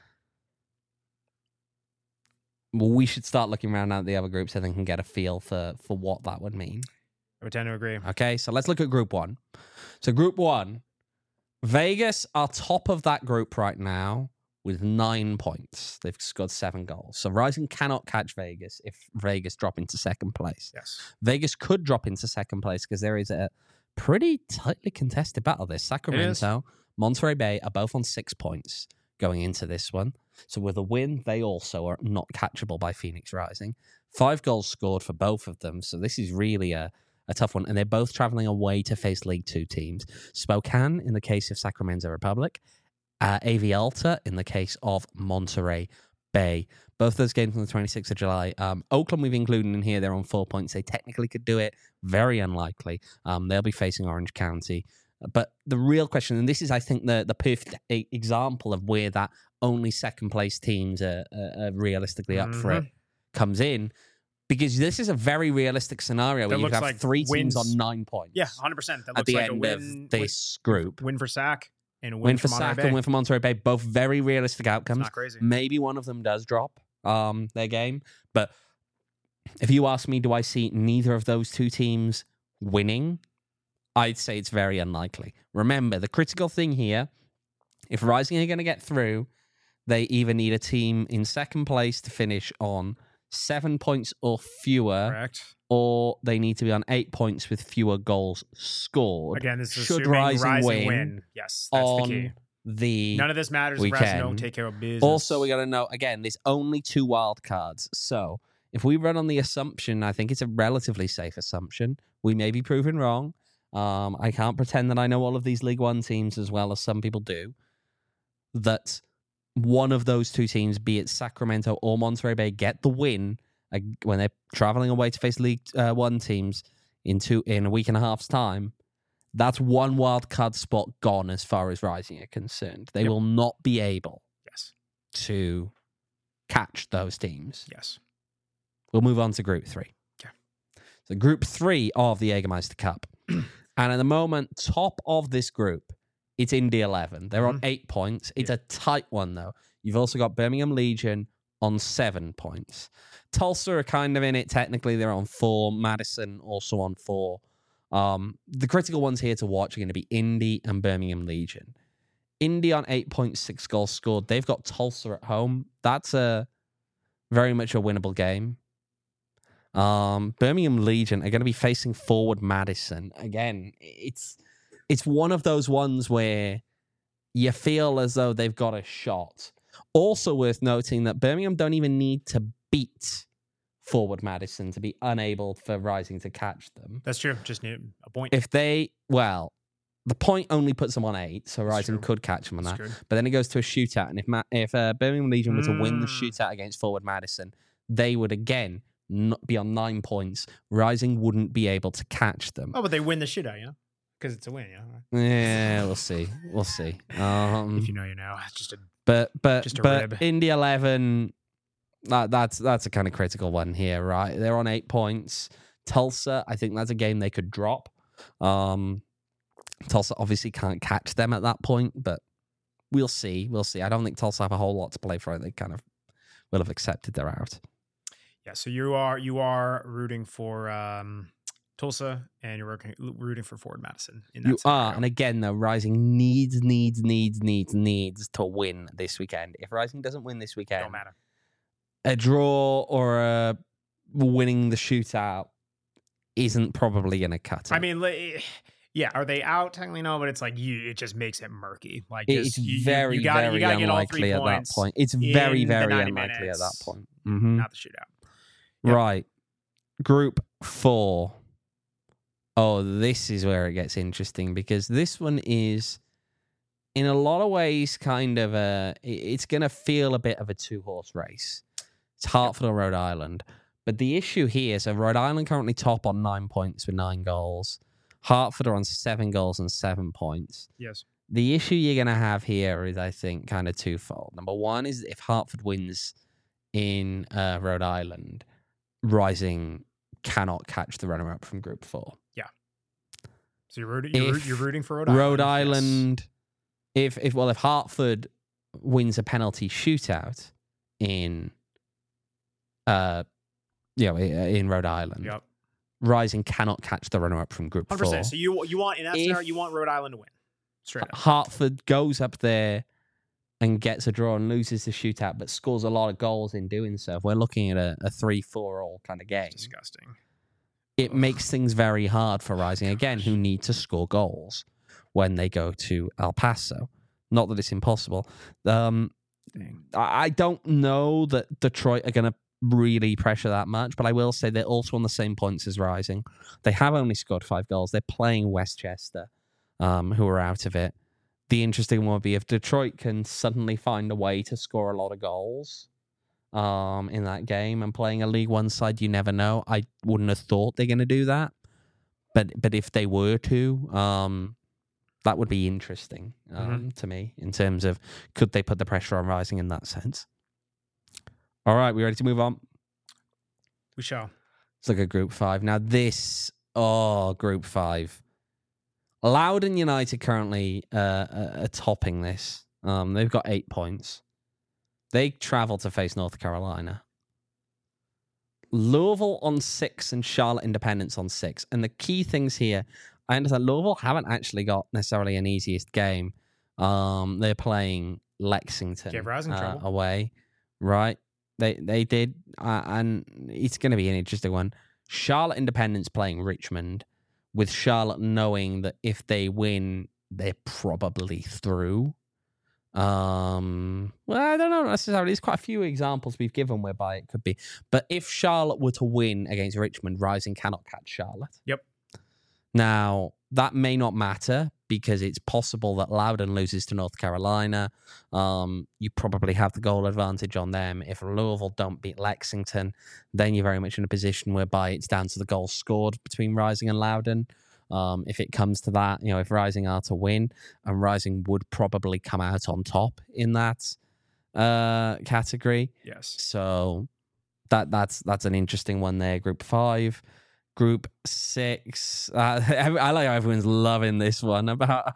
Speaker 1: Well, we should start looking around at the other groups and then can get a feel for what that would mean.
Speaker 2: I would tend to agree.
Speaker 1: Okay, so let's look at Group 1. So Group 1, Vegas are top of that group right now with 9 points. They've scored 7 goals. So Rising cannot catch Vegas if Vegas drop into second place.
Speaker 2: Yes.
Speaker 1: Vegas could drop into second place because there is a pretty tightly contested battle there. Sacramento, Monterey Bay are both on 6 points going into this one. So with a win, they also are not catchable by Phoenix Rising. 5 goals scored for both of them. So this is really a tough one. And they're both traveling away to face League Two teams. Spokane in the case of Sacramento Republic. AV Alta in the case of Monterey Bay. Both those games on the 26th of July. Oakland we've included in here. They're on 4 points. They technically could do it. Very unlikely. They'll be facing Orange County. But the real question, and this is, I think, the perfect example of where that only second place teams are realistically up for it, comes in. Because this is a very realistic scenario where you have like 3 teams on 9 points.
Speaker 2: Yeah, 100%. That
Speaker 1: at the end of this group.
Speaker 2: Win for SAC and a
Speaker 1: win for SAC and win for Monterey Bay. Both very realistic outcomes.
Speaker 2: It's not crazy.
Speaker 1: Maybe one of them does drop their game. But if you ask me, do I see neither of those two teams winning? I'd say it's very unlikely. Remember, the critical thing here, if Rising are going to get through, they either need a team in second place to finish on 7 points or fewer,
Speaker 2: correct,
Speaker 1: or they need to be on 8 points with fewer goals scored.
Speaker 2: Again, this is
Speaker 1: should
Speaker 2: assuming
Speaker 1: Rising
Speaker 2: win. Yes, that's the key.
Speaker 1: None
Speaker 2: of this matters if
Speaker 1: weekend.
Speaker 2: Rising don't take care of business.
Speaker 1: Also, we got to know, again, there's only 2 wild cards. So if we run on the assumption, I think it's a relatively safe assumption. We may be proven wrong. I can't pretend that I know all of these League One teams as well as some people do. That one of those two teams, be it Sacramento or Monterey Bay, get the win when they're traveling away to face League One teams in a week and a half's time. That's 1 wild card spot gone as far as Rising are concerned. They will not be able to catch those teams.
Speaker 2: Yes.
Speaker 1: We'll move on to Group 3.
Speaker 2: Okay.
Speaker 1: So Group 3 of the Jägermeister Cup. And at the moment, top of this group, it's Indy 11. They're on 8 points. It's a tight one, though. You've also got Birmingham Legion on 7 points. Tulsa are kind of in it. Technically, they're on 4. Madison also on 4. The critical ones here to watch are going to be Indy and Birmingham Legion. Indy on 8 points, 6 goals scored. They've got Tulsa at home. That's very much a winnable game. Birmingham Legion are going to be facing Forward Madison. Again, it's one of those ones where you feel as though they've got a shot. Also worth noting that Birmingham don't even need to beat Forward Madison to be unable for Rising to catch them.
Speaker 2: That's true. Just need a point.
Speaker 1: The point only puts them on 8, so Rising could catch them on that. But then it goes to a shootout, and if Birmingham Legion were to win the shootout against Forward Madison, they would again not be on 9 points. Rising wouldn't be able to catch them.
Speaker 2: Oh, but they win the shootout, because it's a win,
Speaker 1: Yeah, we'll see. If
Speaker 2: you know, you know. It's just a
Speaker 1: but
Speaker 2: rib.
Speaker 1: Indy 11, that's a kind of critical one here, right? They're on 8 points. Tulsa, I think that's a game they could drop. Tulsa obviously can't catch them at that point, but we'll see. I don't think Tulsa have a whole lot to play for. They kind of will have accepted they're out.
Speaker 2: Yeah, so you are rooting for Tulsa, and you're rooting for Forward Madison. In that
Speaker 1: you
Speaker 2: scenario.
Speaker 1: are, and again, though, Rising needs to win this weekend. If Rising doesn't win this weekend,
Speaker 2: don't matter.
Speaker 1: A draw or a winning the shootout isn't probably going to cut it.
Speaker 2: I mean, yeah, are they out? Technically, no, but it's like it just makes it murky. Like
Speaker 1: it's very unlikely at that point. It's very unlikely at that point. Mm-hmm.
Speaker 2: Not the shootout. Yep.
Speaker 1: Right. Group 4. Oh, this is where it gets interesting because this one is, in a lot of ways, kind of it's going to feel a bit of a 2-horse race. It's Hartford or Rhode Island. But the issue here is Rhode Island currently top on 9 points with 9 goals. Hartford are on 7 goals and 7 points.
Speaker 2: Yes.
Speaker 1: The issue you're going to have here is, I think, kind of twofold. Number one is if Hartford wins in Rhode Island, Rising cannot catch the runner-up from Group 4.
Speaker 2: Yeah. So you're rooting for Rhode Island.
Speaker 1: Rhode Island, yes. If Hartford wins a penalty shootout in Rhode Island,
Speaker 2: yep.
Speaker 1: Rising cannot catch the runner-up from Group
Speaker 2: 100%.
Speaker 1: 4.
Speaker 2: So you want, in that scenario, you want Rhode Island to win. Straight up.
Speaker 1: Hartford goes up there and gets a draw and loses the shootout, but scores a lot of goals in doing so. If we're looking at a 3-4 all kind of game.
Speaker 2: Disgusting.
Speaker 1: It makes things very hard for Rising, again, who need to score goals when they go to El Paso. Not that it's impossible. I don't know that Detroit are going to really pressure that much. But I will say they're also on the same points as Rising. They have only scored 5 goals. They're playing Westchester, who are out of it. The interesting one would be if Detroit can suddenly find a way to score a lot of goals in that game, and playing a League One side, you never know. I wouldn't have thought they're going to do that. But if they were to, that would be interesting to me in terms of could they put the pressure on Rising in that sense. All right, we ready to move on?
Speaker 2: We shall.
Speaker 1: Let's look at Group 5. Now Group 5. Loudoun United currently are topping this. They've got 8 points. They travel to face North Carolina. Louisville on 6 and Charlotte Independence on 6. And the key things here, I understand Louisville haven't actually got necessarily an easiest game. They're playing Lexington away, right? They did, and it's going to be an interesting one. Charlotte Independence playing Richmond, with Charlotte knowing that if they win, they're probably through. Well, I don't know necessarily. There's quite a few examples we've given whereby it could be. But if Charlotte were to win against Richmond, Rising cannot catch Charlotte.
Speaker 2: Yep.
Speaker 1: Now, that may not matter because it's possible that Loudoun loses to North Carolina. You probably have the goal advantage on them. If Louisville don't beat Lexington, then you're very much in a position whereby it's down to the goals scored between Rising and Loudoun. If it comes to that, if Rising are to win, and Rising would probably come out on top in that category.
Speaker 2: Yes.
Speaker 1: So that's an interesting one there. Group 5. Group 6. I like how everyone's loving this one about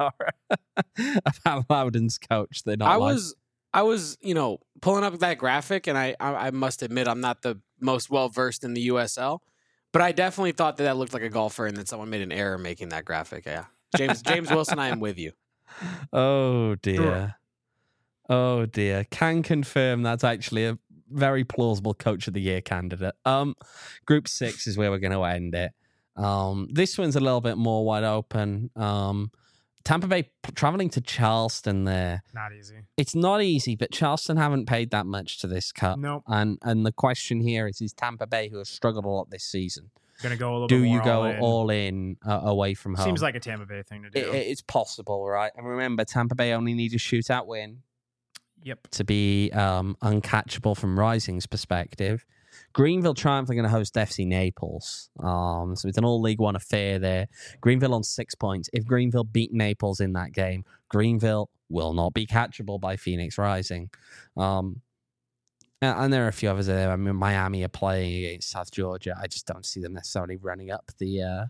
Speaker 1: Loudoun's coach. They're not.
Speaker 3: I was, pulling up that graphic, and I must admit I'm not the most well versed in the USL, but I definitely thought that looked like a golfer, and that someone made an error making that graphic. Yeah, James Wilson, I am with you.
Speaker 1: Oh dear, oh dear. Can confirm that's actually a very plausible Coach of the Year candidate. Group 6 is where we're going to end it. This one's a little bit more wide open. Tampa Bay traveling to Charleston there.
Speaker 2: Not easy.
Speaker 1: It's not easy, but Charleston haven't paid that much to this cup.
Speaker 2: Nope.
Speaker 1: And the question here is Tampa Bay, who have struggled a lot this season,
Speaker 2: going to go a little bit more
Speaker 1: do you go all in away from home?
Speaker 2: Seems like a Tampa Bay thing to do.
Speaker 1: It's possible, right? And remember, Tampa Bay only need a shootout win.
Speaker 2: Yep.
Speaker 1: To be uncatchable from Rising's perspective. Greenville triumphantly going to host FC Naples. So it's an all League One affair there. Greenville on 6 points. If Greenville beat Naples in that game, Greenville will not be catchable by Phoenix Rising. And there are a few others there. I mean, Miami are playing against South Georgia. I just don't see them necessarily running up the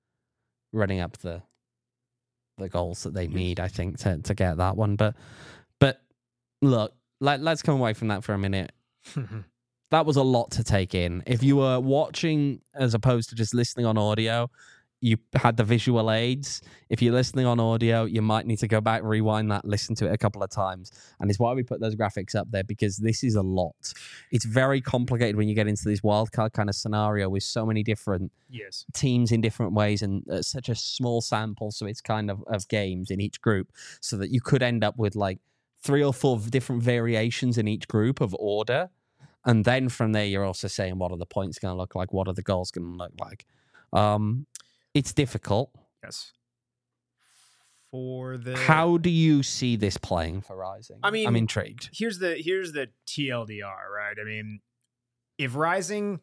Speaker 1: goals that they need, I think, to get that one. But look, let's come away from that for a minute. That was a lot to take in. If you were watching as opposed to just listening on audio, you had the visual aids. If you're listening on audio, you might need to go back, rewind that, listen to it a couple of times. And it's why we put those graphics up there, because this is a lot. It's very complicated when you get into this wildcard kind of scenario with so many different teams in different ways and such a small sample. So it's kind of games in each group, so that you could end up with like 3 or 4 different variations in each group of order. And then from there, you're also saying, what are the points going to look like? What are the goals going to look like? It's difficult.
Speaker 2: Yes.
Speaker 1: How do you see this playing for Rising?
Speaker 2: I mean,
Speaker 1: I'm intrigued.
Speaker 2: Here's the TLDR, right? I mean, if Rising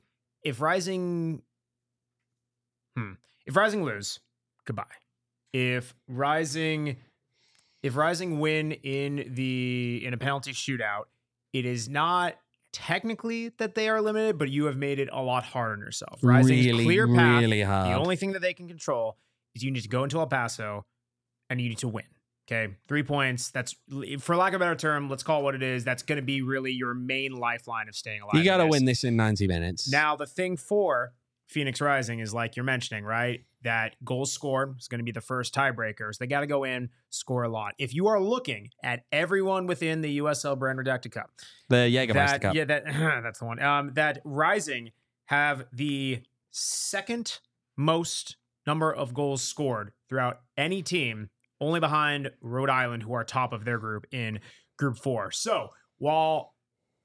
Speaker 2: lose, goodbye. If Rising win in a penalty shootout, it is not technically that they are limited, but you have made it a lot harder on yourself. Rising's clear path.
Speaker 1: Really hard.
Speaker 2: The only thing that they can control is you need to go into El Paso and you need to win. Okay, 3 points. That's, for lack of a better term, let's call it what it is. That's going to be really your main lifeline of staying alive.
Speaker 1: You got to win this in 90 minutes.
Speaker 2: Now, the thing for Phoenix Rising is, like you're mentioning, right? That goals scored is going to be the first tiebreaker. So they got to go in, score a lot. If you are looking at everyone within the USL Brand Redacted Cup,
Speaker 1: the Jägermeister Cup,
Speaker 2: yeah, that's the one. That Rising have the second most number of goals scored throughout any team, only behind Rhode Island, who are top of their group in Group 4. So while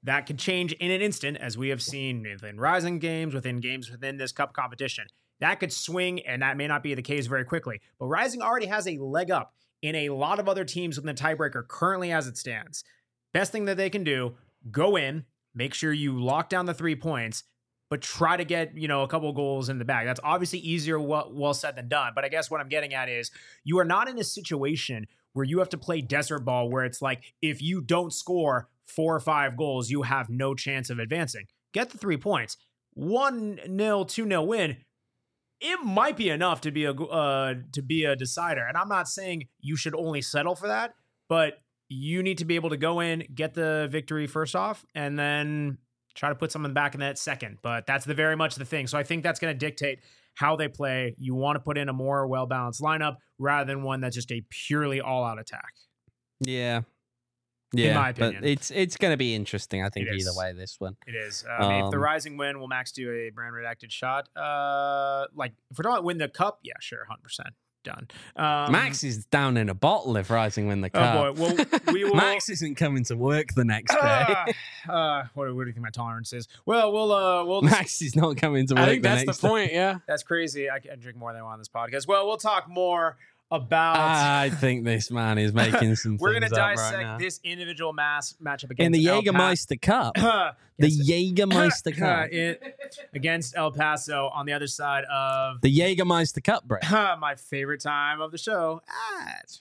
Speaker 2: that could change in an instant, as we have seen within Rising games, within this cup competition. That could swing, and that may not be the case very quickly. But Rising already has a leg up in a lot of other teams within the tiebreaker currently as it stands. Best thing that they can do, go in, make sure you lock down the 3 points, but try to get, a couple goals in the bag. That's obviously easier, well said than done. But I guess what I'm getting at is you are not in a situation where you have to play desert ball where it's like, if you don't score 4 or 5 goals, you have no chance of advancing. Get the 3 points. 1-0, 2-0 win. It might be enough to be a decider. And I'm not saying you should only settle for that, but you need to be able to go in, get the victory first off, and then try to put someone back in that second. But that's very much the thing. So I think that's going to dictate how they play. You want to put in a more well-balanced lineup rather than one that's just a purely all-out attack.
Speaker 1: Yeah.
Speaker 2: In my opinion.
Speaker 1: But it's going to be interesting, I think,
Speaker 2: It is.
Speaker 1: either way, this one.
Speaker 2: It is. If the Rising win, will Max do a brand redacted shot? If we're talking about win the cup, yeah, sure, 100%. Done.
Speaker 1: Max is down in a bottle if Rising win the cup.
Speaker 2: Oh, boy. Well, we will...
Speaker 1: Max isn't coming to work the next day.
Speaker 2: What do you think my tolerance is? Well, we'll
Speaker 1: Max is not coming to work
Speaker 3: I think
Speaker 1: the
Speaker 3: that's
Speaker 1: next
Speaker 3: the point, yeah.
Speaker 2: That's crazy. I drink more than I want on this podcast. Well, we'll talk more about...
Speaker 1: I think this man is making some
Speaker 2: We're going to
Speaker 1: things up
Speaker 2: dissect
Speaker 1: right now.
Speaker 2: this individual matchup against
Speaker 1: In the
Speaker 2: El
Speaker 1: Jägermeister Cup. The Jägermeister Cup.
Speaker 2: Against El Paso on the other side of
Speaker 1: The Jägermeister Cup, Brett.
Speaker 2: my favorite time of the show, ads.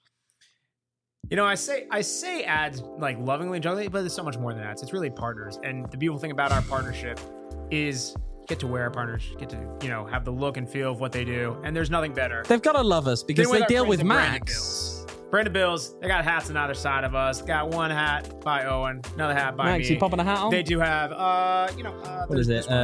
Speaker 2: I say ads like lovingly and jokingly, but there's so much more than ads. It's really partners. And the beautiful thing about our partnership is get to wear our partners, get to, have the look and feel of what they do. And there's nothing better.
Speaker 1: They've got to love us because
Speaker 2: Than
Speaker 1: they
Speaker 2: our
Speaker 1: deal
Speaker 2: friends
Speaker 1: with
Speaker 2: at Brandon
Speaker 1: Max.
Speaker 2: Bills. Brandon Bills, they got hats on either side of us. Got one hat by Owen, another hat by
Speaker 1: Max,
Speaker 2: me.
Speaker 1: you popping a hat on?
Speaker 2: They do have,
Speaker 1: What is it?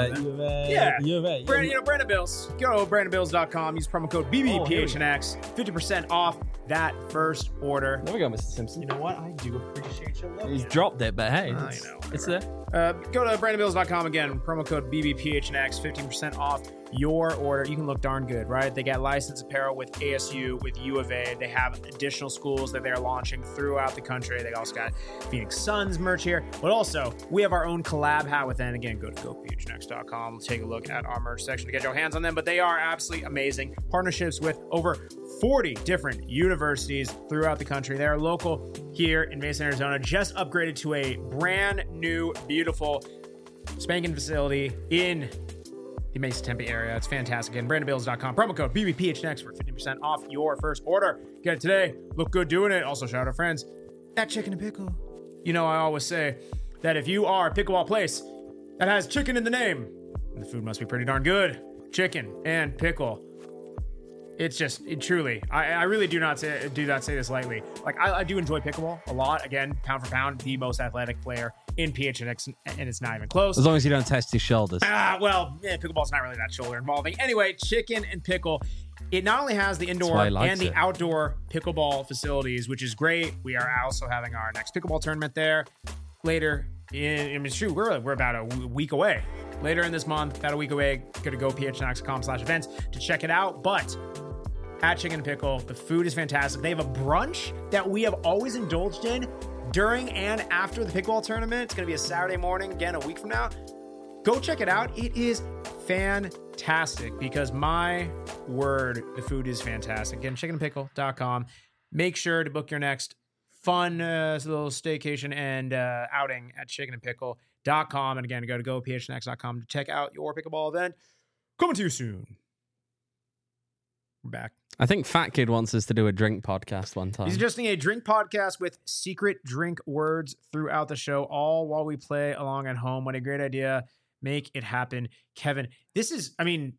Speaker 2: Yeah.
Speaker 1: U of A.
Speaker 2: Brandon Bills. Go to brandonbills.com. Use promo code BBPHNX. 50% off that first order.
Speaker 1: There we go, Mr. Simpson.
Speaker 2: You know what? I do appreciate your love.
Speaker 1: He's dropped it, but hey,
Speaker 2: Oh,
Speaker 1: it's there.
Speaker 2: Go to brandonbills.com again. Promo code BBPHNX. 15% off your order. You can look darn good, right? They got licensed apparel with ASU, with U of A. They have additional schools that they're launching throughout the country. They also got Phoenix Suns merch here, but also we have our own collab hat with them. Again, go to gophnx.com. Take a look at our merch section to get your hands on them, but they are absolutely amazing. Partnerships with over 40 different universities throughout the country. They are local here in Mesa, Arizona, just upgraded to a brand new, beautiful spanking facility in the Mesa Tempe area. It's fantastic. Again, brandonbills.com. Promo code BBPHNX for 50% off your first order. Get it today. Look good doing it. Also, shout out our friends at Chicken and Pickle. I always say that if you are a pickleball place that has chicken in the name, the food must be pretty darn good. Chicken and pickle. It's just, truly, I really do not say this lightly. Like, I do enjoy pickleball a lot. Again, pound for pound, the most athletic player in PHNX, and it's not even close.
Speaker 1: As long as you don't test his shoulders.
Speaker 2: Pickleball's not really that shoulder involving. Anyway, Chicken and Pickle. It not only has the indoor and the outdoor pickleball facilities, which is great. We are also having our next pickleball tournament there later. It's true, we're about a week away. Later in this month, about a week away, go to gophnx.com/events to check it out. But at Chicken and Pickle, the food is fantastic. They have a brunch that we have always indulged in during and after the pickleball tournament. It's going to be a Saturday morning, again, a week from now. Go check it out. It is fantastic because, my word, the food is fantastic. Again, chickenandpickle.com. Make sure to book your next fun little staycation and outing at chickenandpickle.com. And again, go to gophnx.com to check out your pickleball event. Coming to you soon. We're back.
Speaker 1: I think Fat Kid wants us to do a drink podcast one time.
Speaker 2: He's suggesting a drink podcast with secret drink words throughout the show, all while we play along at home. What a great idea. Make it happen. Kevin, this was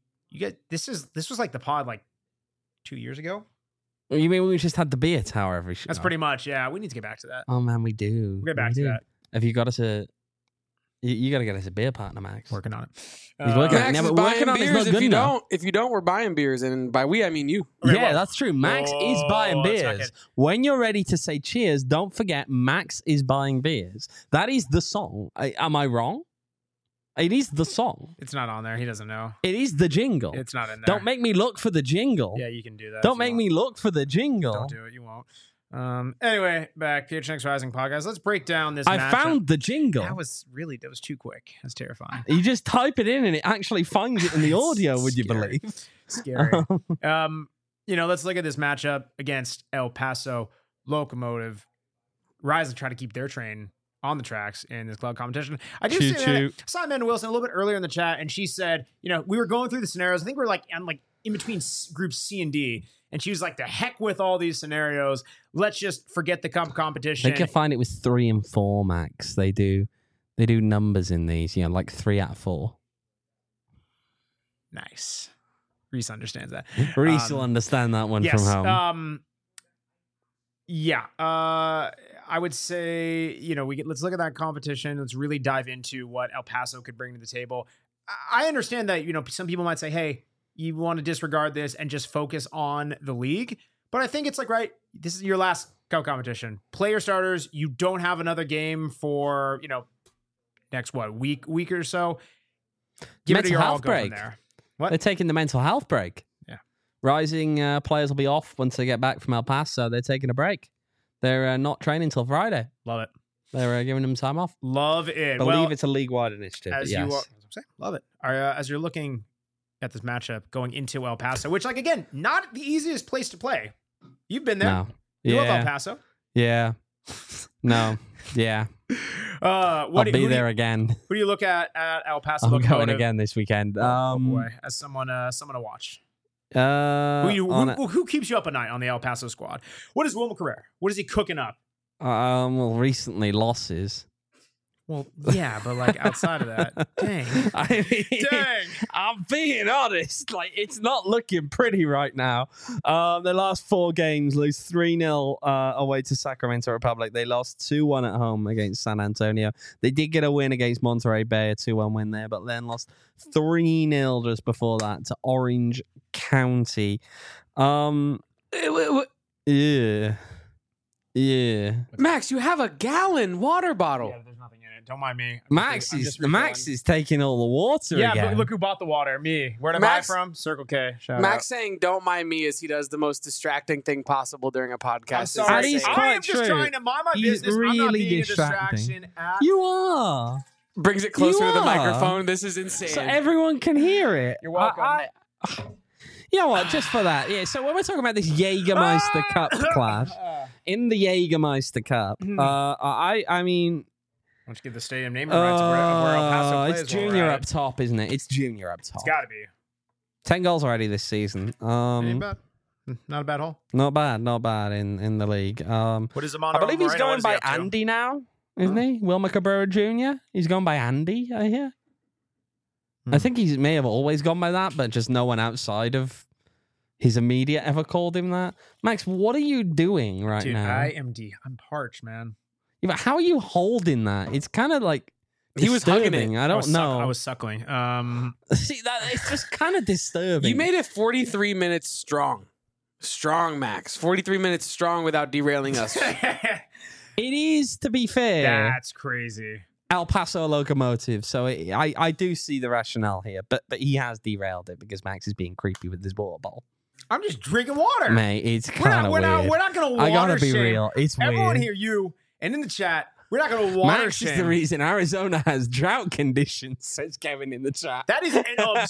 Speaker 2: like the pod like 2 years ago.
Speaker 1: You mean we just had the beer tower every show?
Speaker 2: That's pretty much, yeah. We need to get back to that.
Speaker 1: Oh man, we do.
Speaker 2: We'll get back to that.
Speaker 1: Have you got us a... You got to get us a beer partner, Max.
Speaker 2: Working on it.
Speaker 1: He's working on it.
Speaker 3: Max
Speaker 1: Yeah,
Speaker 3: is
Speaker 1: but
Speaker 3: buying
Speaker 1: working on it's
Speaker 3: beers.
Speaker 1: not good enough.
Speaker 3: If you don't, we're buying beers, and by we I mean you.
Speaker 2: Okay,
Speaker 1: Yeah,
Speaker 2: well-
Speaker 1: that's true. Max is buying
Speaker 2: that's not
Speaker 1: beers.
Speaker 2: good.
Speaker 1: When you're ready to say cheers, don't forget Max is buying beers. That is the song. Am I wrong? It is the song.
Speaker 2: It's not on there. He doesn't know.
Speaker 1: It is the jingle.
Speaker 2: It's not in there.
Speaker 1: Don't make me look for the jingle.
Speaker 2: Yeah, you can do that.
Speaker 1: Don't
Speaker 2: if you
Speaker 1: make
Speaker 2: want.
Speaker 1: me look for the jingle.
Speaker 2: Don't do it. You won't. Anyway, back PHNX Rising podcast. Let's break down this.
Speaker 1: I
Speaker 2: matchup.
Speaker 1: found the jingle.
Speaker 2: That was too quick. That's terrifying.
Speaker 1: You just type it in and it actually finds it in the audio, would you
Speaker 2: Scary.
Speaker 1: believe?
Speaker 2: Scary. Let's look at this matchup against El Paso Locomotive. Rising try to keep their train on the tracks in this club competition. I do see that. I saw Amanda Wilson a little bit earlier in the chat, and she said, we were going through the scenarios. I think we're in between groups C and D. And she was like, the heck with all these scenarios. Let's just forget the competition.
Speaker 1: They can find it with 3 and 4, Max. They do numbers in these, like 3 out of 4.
Speaker 2: Nice. Reese understands that.
Speaker 1: Reese will understand that one
Speaker 2: yes,
Speaker 1: from home.
Speaker 2: I would say, let's look at that competition. Let's really dive into what El Paso could bring to the table. I understand that, some people might say, hey, you want to disregard this and just focus on the league. But I think it's right, this is your last cup competition. Player starters, you don't have another game for, next week or so. Give
Speaker 1: mental
Speaker 2: it your all,
Speaker 1: health
Speaker 2: go from
Speaker 1: break.
Speaker 2: there. What?
Speaker 1: They're taking the mental health break.
Speaker 2: Yeah.
Speaker 1: Rising players will be off once they get back from El Paso. They're taking a break. They're not training until Friday.
Speaker 2: Love it.
Speaker 1: They're giving them time off.
Speaker 2: Love it.
Speaker 1: Believe it's a league-wide initiative.
Speaker 2: As
Speaker 1: yes.
Speaker 2: you are, love it. As you're looking at this matchup going into El Paso, which, again, not the easiest place to play. You've been there.
Speaker 1: No.
Speaker 2: You
Speaker 1: Yeah.
Speaker 2: love El Paso.
Speaker 1: Yeah. No. Yeah. I'll be there again.
Speaker 2: Who do you look at El Paso?
Speaker 1: I'm
Speaker 2: Locomotive?
Speaker 1: going again this weekend.
Speaker 2: Oh boy, as someone to watch. Who keeps you up at night on the El Paso squad? What is Wilmer Carrera? What is he cooking up?
Speaker 1: Well, recently losses.
Speaker 2: Well, yeah, but outside of that, dang.
Speaker 1: I mean,
Speaker 2: Dang.
Speaker 1: I'm being honest. It's not looking pretty right now. The last 4 games, lose 3-0 away to Sacramento Republic. They lost 2-1 at home against San Antonio. They did get a win against Monterey Bay, a 2-1 win there, but then lost 3-0 just before that to Orange County. Yeah.
Speaker 3: Max, you have a gallon water bottle.
Speaker 2: Yeah, there's nothing in it. Don't mind me.
Speaker 1: Max is taking all the water
Speaker 2: Yeah,
Speaker 1: again.
Speaker 2: but look who bought the water. Me. Where did I buy from? Circle K. Shout
Speaker 3: Max
Speaker 2: out.
Speaker 3: saying "Don't mind me" as he does the most distracting thing possible during a podcast.
Speaker 2: I'm sorry.
Speaker 1: And he's
Speaker 2: I
Speaker 1: quite
Speaker 2: am just
Speaker 1: true.
Speaker 2: trying to mind my
Speaker 1: He's
Speaker 2: business. I'm not
Speaker 1: really
Speaker 2: being
Speaker 1: distracting.
Speaker 2: a distraction at
Speaker 1: You are.
Speaker 3: Brings it closer to
Speaker 1: You
Speaker 3: the
Speaker 1: are.
Speaker 3: microphone. This is insane.
Speaker 1: So everyone can hear it.
Speaker 2: You're welcome.
Speaker 1: You know what? Just for that. Yeah. So when we're talking about this Jägermeister Cup clash, in the Jägermeister Cup, I mean,
Speaker 2: Why don't you give the stadium name rights of where El Paso plays?
Speaker 1: it's Junior up top, isn't it? It's Junior up top.
Speaker 2: It's got to be.
Speaker 1: 10 goals already this season.
Speaker 2: Ain't bad. Not a bad haul.
Speaker 1: Not bad in the league.
Speaker 2: What is Amando
Speaker 1: I believe he's
Speaker 2: Moreno? What
Speaker 1: going
Speaker 2: is he
Speaker 1: by
Speaker 2: up to?
Speaker 1: Andy now, isn't he? Wilmer Cabrera Jr. He's going by Andy, I hear. I think he may have always gone by that, but just no one outside of his immediate ever called him that. Max, what are you doing right
Speaker 2: Dude,
Speaker 1: now?
Speaker 2: I'm parched, man.
Speaker 1: Yeah, but how are you holding that? It's kind of like
Speaker 3: He was hugging
Speaker 1: disturbing.
Speaker 3: it.
Speaker 1: I don't know.
Speaker 2: I was suckling.
Speaker 1: See that it's just kind of disturbing.
Speaker 3: You made it 43 minutes strong. Strong, Max. 43 minutes strong without derailing us.
Speaker 1: It is, to be fair,
Speaker 2: That's crazy.
Speaker 1: El Paso Locomotive. So I do see the rationale here, but he has derailed it because Max is being creepy with his water bottle.
Speaker 2: I'm just drinking water.
Speaker 1: Mate, it's kind of weird.
Speaker 2: We're not going to water
Speaker 1: I gotta be
Speaker 2: shame.
Speaker 1: real. It's
Speaker 2: Everyone
Speaker 1: weird.
Speaker 2: here, you, and in the chat, we're not going to water
Speaker 1: Max
Speaker 2: shame.
Speaker 1: is the reason Arizona has drought conditions, says Kevin in the chat.
Speaker 2: That is an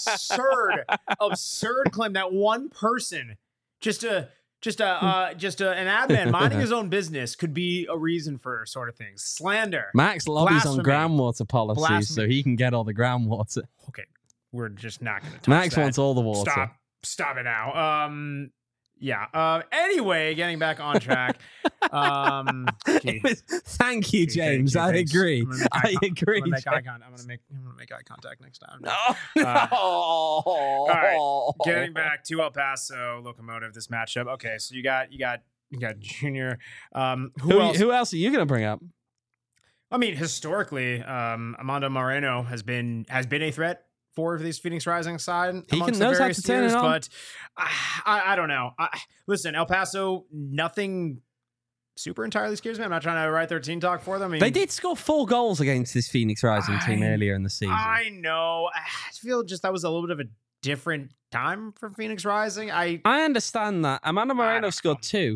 Speaker 2: absurd claim that one person, just an admin minding his own business, could be a reason for sort of things. Slander.
Speaker 1: Max lobbies on
Speaker 2: Blasphemy.
Speaker 1: groundwater policies so he can get all the groundwater.
Speaker 2: Okay, we're just not going to touch
Speaker 1: Max
Speaker 2: that.
Speaker 1: wants all the water.
Speaker 2: Stop it now. Yeah. Anyway, getting back on track. Gee.
Speaker 1: Thank you,
Speaker 2: Gee,
Speaker 1: James.
Speaker 2: thank
Speaker 1: I
Speaker 2: you,
Speaker 1: agree.
Speaker 2: thanks.
Speaker 1: I agree.
Speaker 2: I'm gonna make eye
Speaker 1: James.
Speaker 2: contact. I'm gonna make eye contact next time.
Speaker 1: No.
Speaker 2: All right, getting back to El Paso Locomotive, this matchup. Okay, so you got Junior. Who else?
Speaker 1: Who else are you going to bring up?
Speaker 2: I mean, historically, Amando Moreno has been a threat for this Phoenix Rising side.
Speaker 1: He
Speaker 2: amongst
Speaker 1: knows
Speaker 2: the
Speaker 1: how
Speaker 2: various
Speaker 1: to turn it
Speaker 2: tiers,
Speaker 1: on.
Speaker 2: but I don't know. Listen, El Paso, nothing super entirely scares me. I'm not trying to write their team talk for them. I mean,
Speaker 1: They did score 4 goals against this Phoenix Rising team earlier in the season.
Speaker 2: I know. I feel just that was a little bit of a different time for Phoenix Rising.
Speaker 1: I understand that. Amanda Moreno scored 2.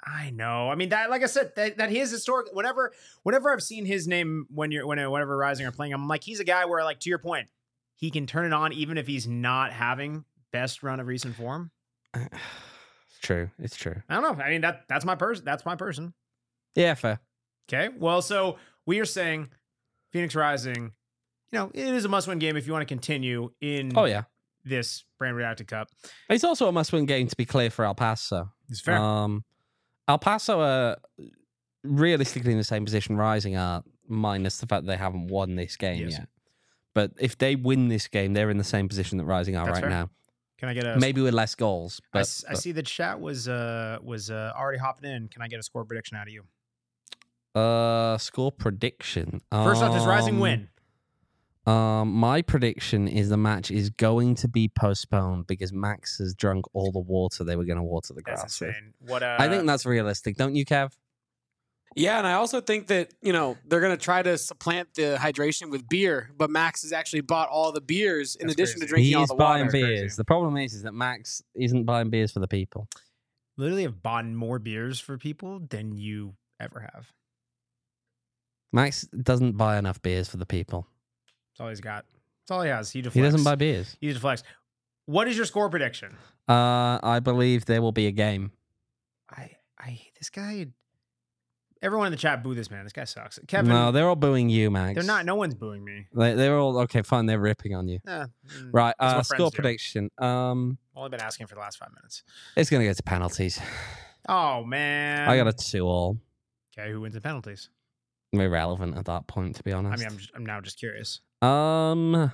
Speaker 2: I know. I mean, that, like I said, that he is historic. Whenever I've seen his name whenever Rising are playing, I'm like, he's a guy where, like, to your point, he can turn it on even if he's not having best run of recent form.
Speaker 1: It's true. It's true.
Speaker 2: I don't know. I mean, that's my person. That's my person.
Speaker 1: Yeah, fair.
Speaker 2: Okay. Well, so we are saying Phoenix Rising, it is a must-win game if you want to continue in
Speaker 1: Oh, yeah.
Speaker 2: this Brand Redacted Cup.
Speaker 1: It's also a must-win game, to be clear, for El Paso.
Speaker 2: It's fair.
Speaker 1: El Paso are realistically in the same position Rising are, minus the fact that they haven't won this game yet. But if they win this game, they're in the same position that Rising are right now.
Speaker 2: Can I get a
Speaker 1: maybe with less goals? But
Speaker 2: I see the chat was already hopping in. Can I get a score prediction out of you?
Speaker 1: Score prediction.
Speaker 2: First off, does Rising win?
Speaker 1: My prediction is the match is going to be postponed because Max has drunk all the water they were going to water the grass.
Speaker 2: That's insane.
Speaker 1: I think that's realistic, don't you, Kev?
Speaker 3: Yeah, and I also think that, they're going to try to supplant the hydration with beer, but Max has actually bought all the beers in addition to drinking all the water.
Speaker 1: He is buying beers. The problem is that Max isn't buying beers for the people.
Speaker 2: Literally have bought more beers for people than you ever have.
Speaker 1: Max doesn't buy enough beers for the people.
Speaker 2: That's all he's got. That's all he has. He deflects.
Speaker 1: He doesn't buy beers.
Speaker 2: He deflects. What is your score prediction?
Speaker 1: I believe there will be a game.
Speaker 2: I hate this guy. Everyone in the chat boo this man. This guy sucks. Kevin.
Speaker 1: No, they're all booing you, Max.
Speaker 2: They're not. No one's booing me.
Speaker 1: They're all okay. Fine. They're ripping on you. Right. Score prediction.
Speaker 2: Only been asking for the last 5 minutes.
Speaker 1: It's gonna go to penalties.
Speaker 2: Oh man.
Speaker 1: I got a 2-2.
Speaker 2: Okay. Who wins the penalties?
Speaker 1: Irrelevant at that point, to be honest.
Speaker 2: I mean, I'm now just curious.
Speaker 1: Damn,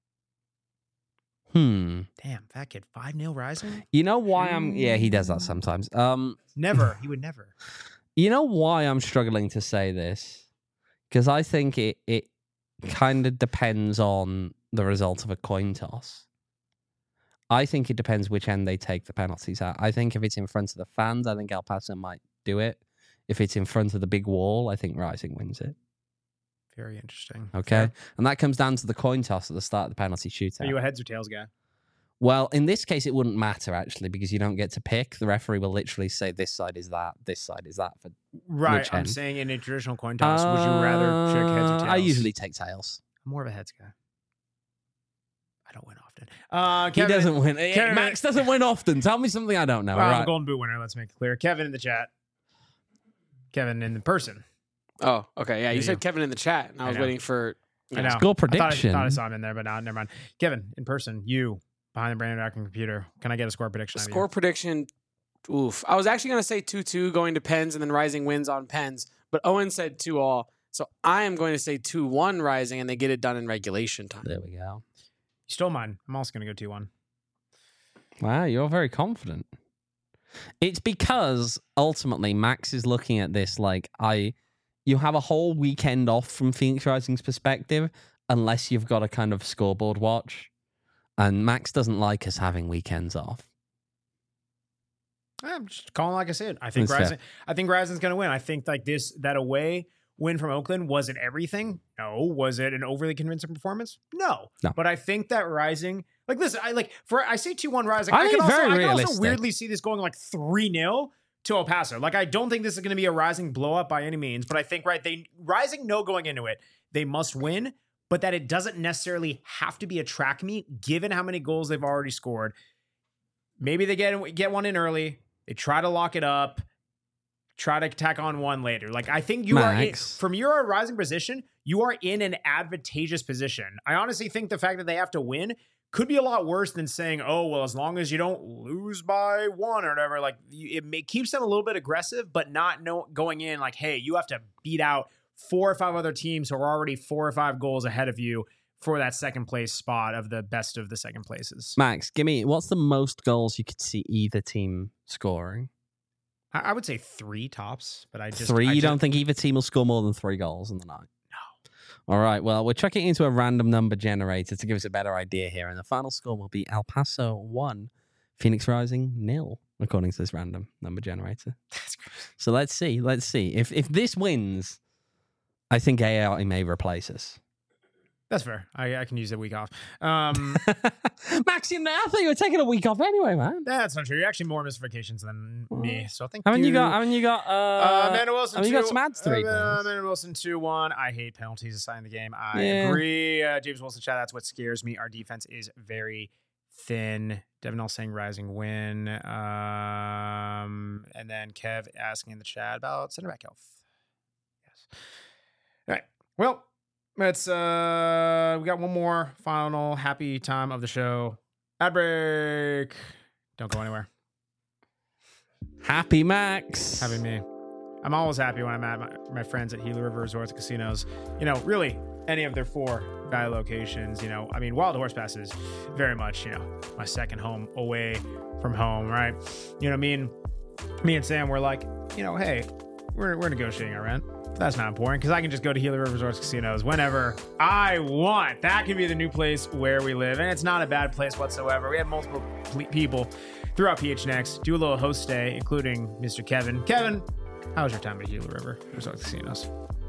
Speaker 2: fat kid. 5-0 Rising.
Speaker 1: You know why Yeah, he does that sometimes.
Speaker 2: Never. He would never.
Speaker 1: You know why I'm struggling to say this? Because I think it kind of depends on the result of a coin toss. I think it depends which end they take the penalties at. I think if it's in front of the fans, I think El Paso might do it. If it's in front of the big wall, I think Rising wins it.
Speaker 2: Very interesting.
Speaker 1: Okay.
Speaker 2: Yeah.
Speaker 1: And that comes down to the coin toss at the start of the penalty shootout.
Speaker 2: Are you a heads or tails guy?
Speaker 1: Well, in this case, it wouldn't matter, actually, because you don't get to pick. The referee will literally say this side is that, this side is that. For
Speaker 2: right. I'm saying in a traditional coin toss, would you rather check heads or tails? I
Speaker 1: usually take tails.
Speaker 2: I'm more of a heads guy. I don't win often.
Speaker 1: Kevin, he doesn't win. Max doesn't win often. Tell me something I don't know.
Speaker 2: I'm a Golden Boot winner. Let's make it clear. Kevin in the chat. Kevin in the person.
Speaker 3: Oh, okay. Yeah, you said Kevin in the chat, and I was waiting for
Speaker 1: score prediction.
Speaker 2: I thought I saw him in there, but no, never mind. Kevin in person. You behind the Brand Redacted computer. Can I get a score prediction?
Speaker 3: Score prediction. Oof. I was actually going to say 2-2 going to Pens, and then Rising wins on Pens, but Owen said 2-2. So I am going to say 2-1 Rising, and they get it done in regulation time.
Speaker 1: There we go.
Speaker 2: You stole mine. I'm also going to go 2-1.
Speaker 1: Wow, you're very confident. It's because ultimately Max is looking at this like you have a whole weekend off from Phoenix Rising's perspective unless you've got a kind of scoreboard watch. And Max doesn't like us having weekends off.
Speaker 2: I'm just calling like I said. I think Rising's going to win. I think like that away win from Oakland, was it everything? No. Was it an overly convincing performance? No. But I think that Rising, like, listen, I say 2-1 Rising. I can also weirdly see this going like 3-0 to El Paso. Like, I don't think this is going to be a Rising blow up by any means, but I think Rising know going into it, they must win, but that it doesn't necessarily have to be a track meet given how many goals they've already scored. Maybe they get one in early. They try to lock it up. Try to tack on one later. Like, I think from your Rising position, you are in an advantageous position. I honestly think the fact that they have to win could be a lot worse than saying, oh, well, as long as you don't lose by 1 or whatever, like it keeps them a little bit aggressive, but not going in like, hey, you have to beat out 4 or 5 other teams who are already 4 or 5 goals ahead of you for that second place spot of the best of the second places.
Speaker 1: Max, what's the most goals you could see either team scoring?
Speaker 2: I would say 3 tops, but
Speaker 1: you don't think either team will score more than 3 goals in the night? No. All right, well, we're chucking into a random number generator to give us a better idea here, and the final score will be El Paso 1, Phoenix Rising 0, according to this random number generator.
Speaker 2: That's crazy.
Speaker 1: So let's see. If this wins, I think AI may replace us.
Speaker 2: That's fair. I can use a week off.
Speaker 1: Max, I thought you were taking a week off anyway, man.
Speaker 2: That's not true. You're actually more missed vacations than me. So I think
Speaker 1: Haven't you got
Speaker 2: Amanda Wilson.
Speaker 1: Have you got some ads to read?
Speaker 2: Amanda Wilson 2-1. I hate penalties aside in the game. I agree. James Wilson chat. That's what scares me. Our defense is very thin. Devin L saying rising win. And then Kev asking in the chat about center back health. Yes. All right. Well, let's we got one more final happy time of the show. Ad break. Don't go anywhere.
Speaker 1: Happy Max.
Speaker 2: Happy me. I'm always happy when I'm at my friends at Gila River Resorts and Casinos. You know, really any of their 4 value locations. You know, I mean, Wild Horse Pass is very much, you know, my second home away from home, right? You know, me and Sam were like, you know, hey, we're negotiating our rent. That's not important because I can just go to Gila River Resorts Casinos whenever I want. That could be the new place where we live, and it's not a bad place whatsoever. We have multiple people throughout PHNX do a little host stay, including Mr. Kevin. Kevin, how was your time at Gila River Resorts Casinos?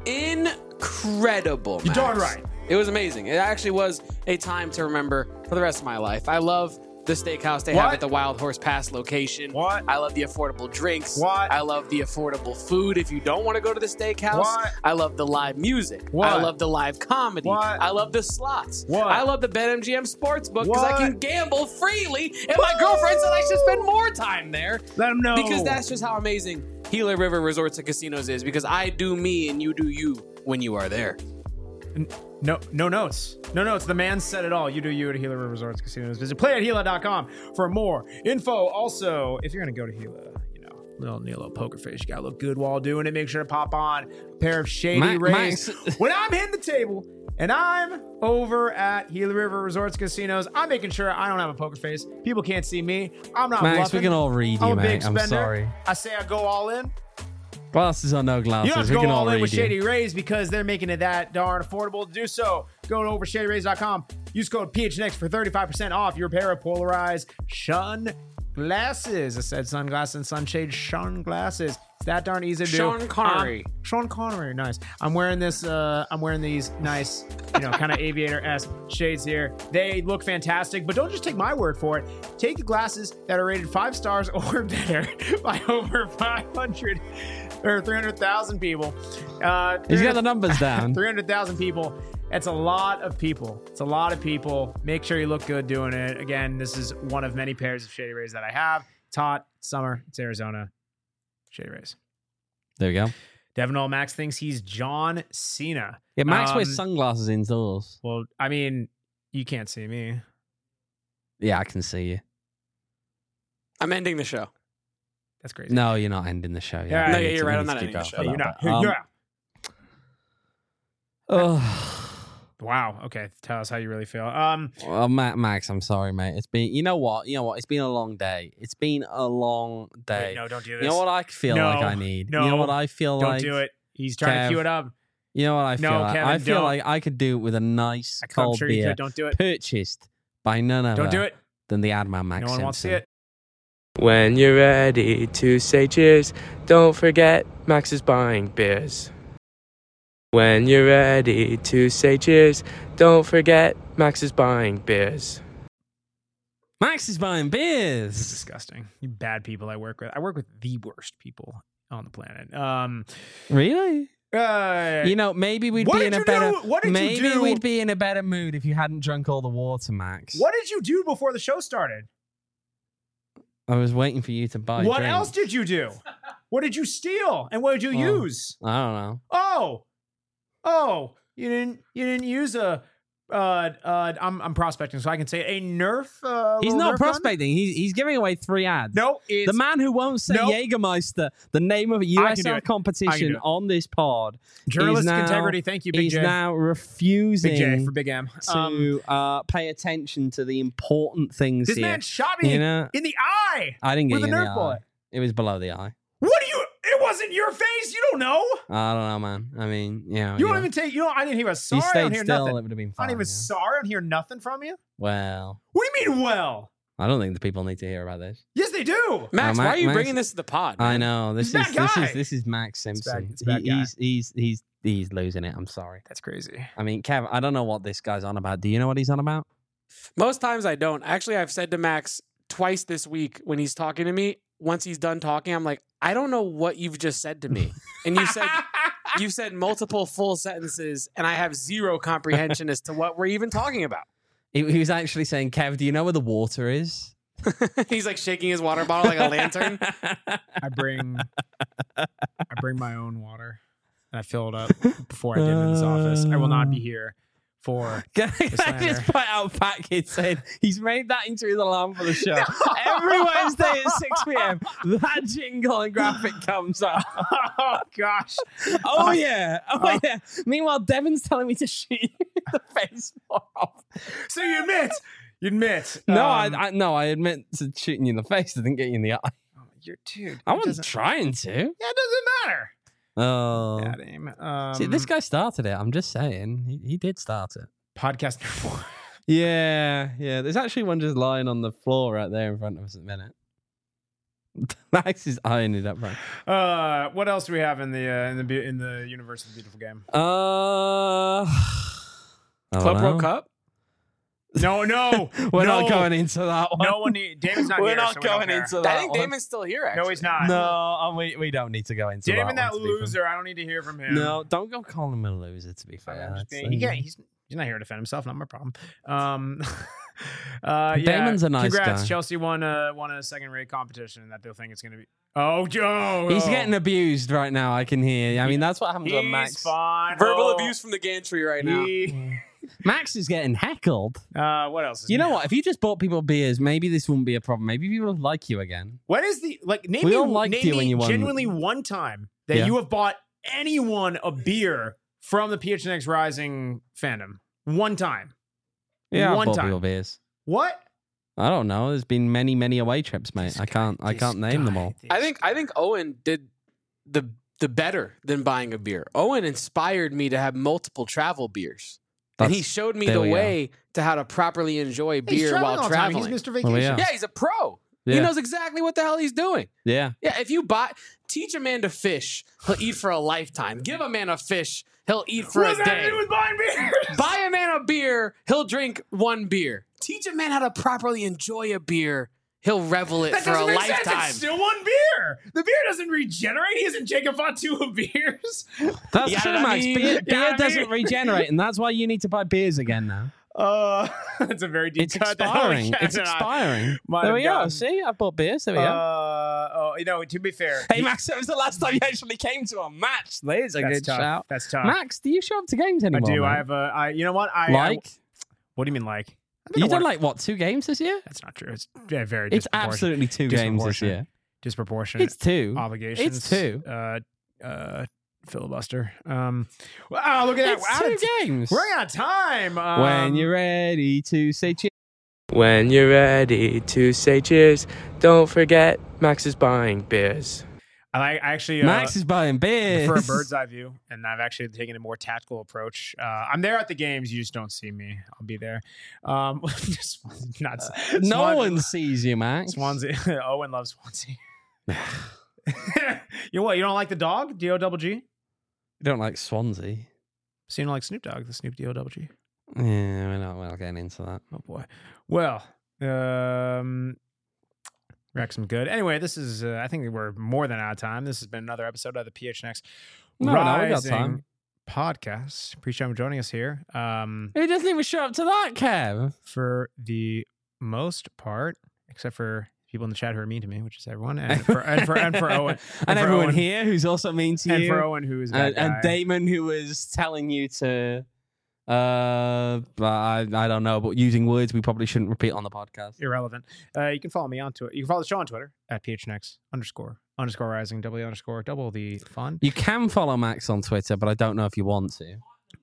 Speaker 3: Incredible,
Speaker 2: You're
Speaker 3: Max.
Speaker 2: darn right.
Speaker 3: It was amazing. It actually was a time to remember for the rest of my life. I love the steakhouse they have at the Wild Horse Pass location.
Speaker 2: What?
Speaker 3: I love the affordable drinks.
Speaker 2: What?
Speaker 3: I love the affordable food if you don't want to go to the steakhouse.
Speaker 2: What?
Speaker 3: I love the live music.
Speaker 2: What?
Speaker 3: I love the live comedy.
Speaker 2: What?
Speaker 3: I love the slots.
Speaker 2: What?
Speaker 3: I love the BetMGM Sportsbook because I
Speaker 2: What?
Speaker 3: can gamble freely, and my girlfriend said I should spend more time there.
Speaker 2: Let them know.
Speaker 3: Because that's just how amazing Gila River Resorts and Casinos is, because I do me and you do you when you are there.
Speaker 2: No notes. No notes. The man said it all. You do you at Gila River Resorts Casinos. Visit playatgila.com for more info. Also, if you're going to go to Gila, you know, need a little poker face. You got to look good while doing it. Make sure to pop on a pair of Shady Rays. When I'm hitting the table and I'm over at Gila River Resorts Casinos, I'm making sure I don't have a poker face. People can't see me. I'm not
Speaker 1: Max,
Speaker 2: bluffing.
Speaker 1: we can all read
Speaker 2: I'm
Speaker 1: you,
Speaker 2: a big
Speaker 1: mate. I'm
Speaker 2: spender.
Speaker 1: sorry.
Speaker 2: I say I go all in.
Speaker 1: Glasses or no glasses,
Speaker 2: You don't have to
Speaker 1: we
Speaker 2: go
Speaker 1: can
Speaker 2: all
Speaker 1: all
Speaker 2: in
Speaker 1: read
Speaker 2: with
Speaker 1: you.
Speaker 2: Shady Rays because they're making it that darn affordable to do so. Go to overshadyrays.com. Use code PHNX for 35% off your pair of polarized sun glasses. I said sunglasses and sunshade sun glasses. It's that darn easy to do.
Speaker 3: Sean Connery.
Speaker 2: Sean Connery, nice. I'm wearing this. I'm wearing these nice, you know, kind of aviator-esque shades here. They look fantastic, but don't just take my word for it. Take the glasses that are rated 5 stars or better by over 500 or 300,000 people.
Speaker 1: He's got the numbers down.
Speaker 2: 300,000 people. It's a lot of people. It's a lot of people. Make sure you look good doing it. Again, this is one of many pairs of Shady Rays that I have. It's hot. It's summer. It's Arizona. Shady Rays.
Speaker 1: There we go.
Speaker 2: Devin All Max thinks he's John Cena.
Speaker 1: Yeah, Max wears sunglasses indoors.
Speaker 2: Well, I mean, you can't see me.
Speaker 1: Yeah, I can see you.
Speaker 3: I'm ending the show.
Speaker 2: That's crazy.
Speaker 1: No, you're not ending the show.
Speaker 2: Yeah,
Speaker 3: No,
Speaker 1: We
Speaker 3: yeah,
Speaker 1: need
Speaker 3: you're
Speaker 1: to-
Speaker 3: right.
Speaker 1: we
Speaker 3: I'm
Speaker 1: need
Speaker 3: not
Speaker 1: to
Speaker 3: ending the
Speaker 1: go
Speaker 3: show.
Speaker 1: for
Speaker 2: You're
Speaker 1: that,
Speaker 2: not.
Speaker 1: but,
Speaker 2: You're out.
Speaker 1: Oh,
Speaker 2: Wow. Okay. Tell us how you really feel.
Speaker 1: well, Max, I'm sorry, mate. It's been, you know what? It's been a long day. It's been a long day.
Speaker 2: Wait, no, don't do this.
Speaker 1: You know what I feel
Speaker 2: No,
Speaker 1: like I need?
Speaker 2: no,
Speaker 1: You know what I feel
Speaker 2: Don't
Speaker 1: like?
Speaker 2: do it. He's trying
Speaker 1: Kev,
Speaker 2: to cue it up.
Speaker 1: You know what I feel
Speaker 2: No,
Speaker 1: like?
Speaker 2: Kevin,
Speaker 1: I feel
Speaker 2: don't.
Speaker 1: like I could do it with a nice
Speaker 2: I'm
Speaker 1: cold
Speaker 2: sure you
Speaker 1: beer
Speaker 2: could. Don't do it.
Speaker 1: purchased by none other
Speaker 2: Don't do it.
Speaker 1: than the Adman Max
Speaker 2: No one wants to see
Speaker 1: Simpson.
Speaker 2: it.
Speaker 5: When you're ready to say cheers, don't forget Max is buying beers. When you're ready to say cheers, don't forget Max is buying beers.
Speaker 1: Max is buying
Speaker 2: This is
Speaker 1: beers.
Speaker 2: disgusting. You bad people I work with. I work with the worst people on the planet.
Speaker 1: Really? Maybe we'd
Speaker 2: What
Speaker 1: be
Speaker 2: did
Speaker 1: in a
Speaker 2: you
Speaker 1: better.
Speaker 2: do? What did you
Speaker 1: maybe
Speaker 2: do?
Speaker 1: we'd be in a better mood if you hadn't drunk all the water, Max.
Speaker 2: What did you do before the show started?
Speaker 1: I was waiting for you to buy.
Speaker 2: What
Speaker 1: drinks.
Speaker 2: else did you do? What did you steal? And what did you
Speaker 1: Oh.
Speaker 2: use?
Speaker 1: I don't know.
Speaker 2: Oh, you didn't use a I'm prospecting, so I can say a Nerf.
Speaker 1: He's
Speaker 2: little
Speaker 1: not
Speaker 2: Nerf gun?
Speaker 1: prospecting. He's giving away 3 ads.
Speaker 2: No, it's
Speaker 1: The man who won't say
Speaker 2: Nope.
Speaker 1: Jägermeister, the name of a
Speaker 2: I can do
Speaker 1: USL
Speaker 2: it. I can do
Speaker 1: competition
Speaker 2: it.
Speaker 1: on this pod,
Speaker 2: journalistic
Speaker 1: now-
Speaker 2: integrity. Thank you, Big
Speaker 1: he's
Speaker 2: J.
Speaker 1: now
Speaker 2: Big J
Speaker 1: refusing
Speaker 2: for Big M.
Speaker 1: to pay attention to the important things
Speaker 2: This
Speaker 1: here.
Speaker 2: man shot me
Speaker 1: You know,
Speaker 2: in the eye
Speaker 1: I didn't get
Speaker 2: with a
Speaker 1: you in the
Speaker 2: Nerf
Speaker 1: eye.
Speaker 2: bullet.
Speaker 1: It was below the eye.
Speaker 2: What do you? It wasn't your face. You don't know.
Speaker 1: I don't know, man. I mean,
Speaker 2: You don't even take. You know. I didn't hear a
Speaker 1: If
Speaker 2: sorry.
Speaker 1: you
Speaker 2: I don't
Speaker 1: stayed
Speaker 2: hear
Speaker 1: still,
Speaker 2: nothing.
Speaker 1: it would have been
Speaker 2: I
Speaker 1: fine.
Speaker 2: don't even
Speaker 1: yeah.
Speaker 2: sorry. I don't hear nothing from you.
Speaker 1: Well,
Speaker 2: What do you mean? Well,
Speaker 1: I don't think the people need to hear about this.
Speaker 2: Yes, they do.
Speaker 3: Max, why are you
Speaker 1: Max-
Speaker 3: bringing this to the pod?
Speaker 1: I
Speaker 3: man?
Speaker 1: know this
Speaker 2: He's a bad guy.
Speaker 1: this is Max
Speaker 2: It's bad-
Speaker 1: Simpson.
Speaker 2: it's a bad guy.
Speaker 1: He's losing it. I'm sorry.
Speaker 2: That's crazy.
Speaker 1: I mean, Kev, I don't know what this guy's on about. Do you know what he's on about?
Speaker 3: Most times I don't. Actually, I've said to Max twice this week when he's talking to me, once he's done talking, I'm like, I don't know what you've just said to me. And you said multiple full sentences, and I have zero comprehension as to what we're even talking about.
Speaker 1: He was actually saying, Kev, do you know where the water is?
Speaker 3: He's like shaking his water bottle like a lantern.
Speaker 2: I bring my own water and I fill it up before I get into this office. I will not be here for
Speaker 1: Can I
Speaker 2: slander.
Speaker 1: just point out Fat Kid saying he's made that into his alarm for the show. Every Wednesday at 6 p.m., that jingle and graphic comes up.
Speaker 2: Oh gosh.
Speaker 1: Oh, yeah. Oh, yeah. Meanwhile, Devin's telling me to shoot you in the face more often.
Speaker 2: So you admit.
Speaker 1: No, I admit to shooting you in the face. I didn't get you in the eye.
Speaker 2: You're dude.
Speaker 1: I
Speaker 2: it
Speaker 1: wasn't
Speaker 2: doesn't-
Speaker 1: trying to.
Speaker 2: Yeah, it doesn't matter.
Speaker 1: Oh.
Speaker 2: Yeah, Dame.
Speaker 1: See, this guy started it. I'm just saying. He did start it.
Speaker 2: podcast number 4.
Speaker 1: Yeah. There's actually one just lying on the floor right there in front of us at the minute. Max is eyeing it up right.
Speaker 2: What else do we have in the universe of the beautiful game?
Speaker 3: Club World Cup?
Speaker 2: No,
Speaker 1: We're
Speaker 2: no.
Speaker 1: not going into that one.
Speaker 2: No one need. Damon's not
Speaker 1: We're
Speaker 2: here.
Speaker 1: not
Speaker 2: so we don't
Speaker 1: going
Speaker 2: care.
Speaker 1: into that
Speaker 3: I think
Speaker 1: one.
Speaker 3: Damon's still here, actually.
Speaker 2: No, he's not.
Speaker 1: No, we don't need to go into
Speaker 2: Damon,
Speaker 1: that
Speaker 2: that
Speaker 1: one, to be fair.
Speaker 2: loser. I don't need to hear from him.
Speaker 1: No, don't go calling him a loser, to be fair.
Speaker 2: I'm just
Speaker 1: That's,
Speaker 2: being- he can't. He's not here to defend himself. Not my problem. Yeah,
Speaker 1: Damon's a nice
Speaker 2: congrats.
Speaker 1: guy.
Speaker 2: Chelsea won a second-rate competition that they'll think it's going to be. Oh, Joe.
Speaker 1: He's getting abused right now, I can hear. I mean, that's what happens when
Speaker 2: He's
Speaker 1: Max...
Speaker 2: fine.
Speaker 3: Verbal
Speaker 2: Oh,
Speaker 3: abuse from the gantry right now.
Speaker 1: Max is getting heckled.
Speaker 2: What else? Is
Speaker 1: You know
Speaker 2: new?
Speaker 1: what? If you just bought people beers, maybe this wouldn't be a problem. Maybe people would like you again.
Speaker 2: What is the name
Speaker 1: We
Speaker 2: me,
Speaker 1: all liked
Speaker 2: name
Speaker 1: you
Speaker 2: me
Speaker 1: when you won.
Speaker 2: genuinely one time that
Speaker 1: Yeah.
Speaker 2: you have bought anyone a beer from the PHNX Rising fandom. One time.
Speaker 1: Yeah, I
Speaker 2: One
Speaker 1: bought
Speaker 2: time.
Speaker 1: people beers.
Speaker 2: What?
Speaker 1: I don't know. There's been many away trips, mate. I can't name them all.
Speaker 3: I think Owen did the better than buying a beer. Owen inspired me to have multiple travel beers. And he showed me
Speaker 1: there
Speaker 3: the
Speaker 1: we go.
Speaker 3: way to how to properly enjoy
Speaker 2: He's
Speaker 3: beer
Speaker 2: traveling
Speaker 3: while
Speaker 2: all the time.
Speaker 3: traveling.
Speaker 2: He's Mr.
Speaker 1: Well,
Speaker 2: Vacation.
Speaker 1: yeah.
Speaker 3: Yeah, he's a pro.
Speaker 1: Yeah.
Speaker 3: He knows exactly what the hell he's doing.
Speaker 1: Yeah.
Speaker 3: Yeah, if you teach a man to fish, he'll eat for a lifetime. Give a man a fish, he'll eat for
Speaker 2: What
Speaker 3: a
Speaker 2: does that have to
Speaker 3: day.
Speaker 2: do with buying beers?
Speaker 3: Buy a man a beer, he'll drink one beer. Teach a man how to properly enjoy a beer, he'll revel it
Speaker 2: That
Speaker 3: for a
Speaker 2: doesn't make sense.
Speaker 3: lifetime.
Speaker 2: It's still one beer. The beer doesn't regenerate. He isn't Jacob Fatu of beers.
Speaker 1: That's
Speaker 3: Yeah,
Speaker 1: true,
Speaker 3: I
Speaker 1: Max.
Speaker 3: mean-
Speaker 1: Beer
Speaker 2: Yeah, I
Speaker 1: doesn't
Speaker 2: mean-
Speaker 1: regenerate, and that's why you need to buy beers again now.
Speaker 2: That's a very deep
Speaker 1: It's
Speaker 2: cut.
Speaker 1: expiring. It's expiring.
Speaker 2: Might
Speaker 1: There
Speaker 2: have
Speaker 1: we go.
Speaker 2: gotten-
Speaker 1: See, I bought beers. There we go.
Speaker 2: To be fair.
Speaker 1: Hey, Max, that was the last time you actually came to a match. There's a
Speaker 2: That's
Speaker 1: good
Speaker 2: tough.
Speaker 1: shout.
Speaker 2: That's tough.
Speaker 1: Max, do you show up to games
Speaker 2: I
Speaker 1: anymore?
Speaker 2: do.
Speaker 1: man?
Speaker 2: I have a. You know what?
Speaker 1: Like?
Speaker 2: What do you mean like? I think
Speaker 1: You
Speaker 2: I
Speaker 1: done
Speaker 2: won-
Speaker 1: like, what, 2 games this year?
Speaker 2: That's not true. It's very.
Speaker 1: It's
Speaker 2: disproportionate.
Speaker 1: absolutely 2 games this year.
Speaker 2: Disproportionate.
Speaker 1: It's 2.
Speaker 2: Obligations.
Speaker 1: It's 2.
Speaker 2: Filibuster. Wow! Look at that.
Speaker 1: It's
Speaker 2: We're
Speaker 1: 2 games.
Speaker 2: running out of time.
Speaker 1: When you're ready to say cheers.
Speaker 5: When you're ready to say cheers, don't forget Max is buying beers.
Speaker 2: I actually
Speaker 1: Max is buying beers.
Speaker 2: for a bird's eye view, and I've actually taken a more tactical approach. I'm there at the games. You just don't see me. I'll be there. Just nuts.
Speaker 1: No one sees you, Max.
Speaker 2: Swansea. Owen loves Swansea. You know what? You don't like the dog? D-O-double-G?
Speaker 1: You don't like Swansea.
Speaker 2: So you don't like Snoop Dogg, the Snoop D-O-double-G?
Speaker 1: Yeah, we're not getting into that.
Speaker 2: Oh, boy. Well, Wrexham good. Anyway, this is, I think we're more than out of time. This has been another episode of the PHNX
Speaker 1: No, we got
Speaker 2: Rising
Speaker 1: time.
Speaker 2: podcast. Appreciate you joining us here.
Speaker 1: Who doesn't even show up to that, Kev?
Speaker 2: For the most part, except for people in the chat who are mean to me, which is everyone, and for Owen,
Speaker 1: And
Speaker 2: for
Speaker 1: everyone
Speaker 2: Owen,
Speaker 1: here who's also mean to
Speaker 2: and
Speaker 1: you.
Speaker 2: for Owen, who is that
Speaker 1: and
Speaker 2: guy.
Speaker 1: Damon, who was telling you to, but I don't know, but using words we probably shouldn't repeat on the podcast.
Speaker 2: Irrelevant. You can follow me on Twitter. You can follow the show on Twitter at PHNX__rising, double the fun.
Speaker 1: You can follow Max on Twitter, but I don't know if you want to.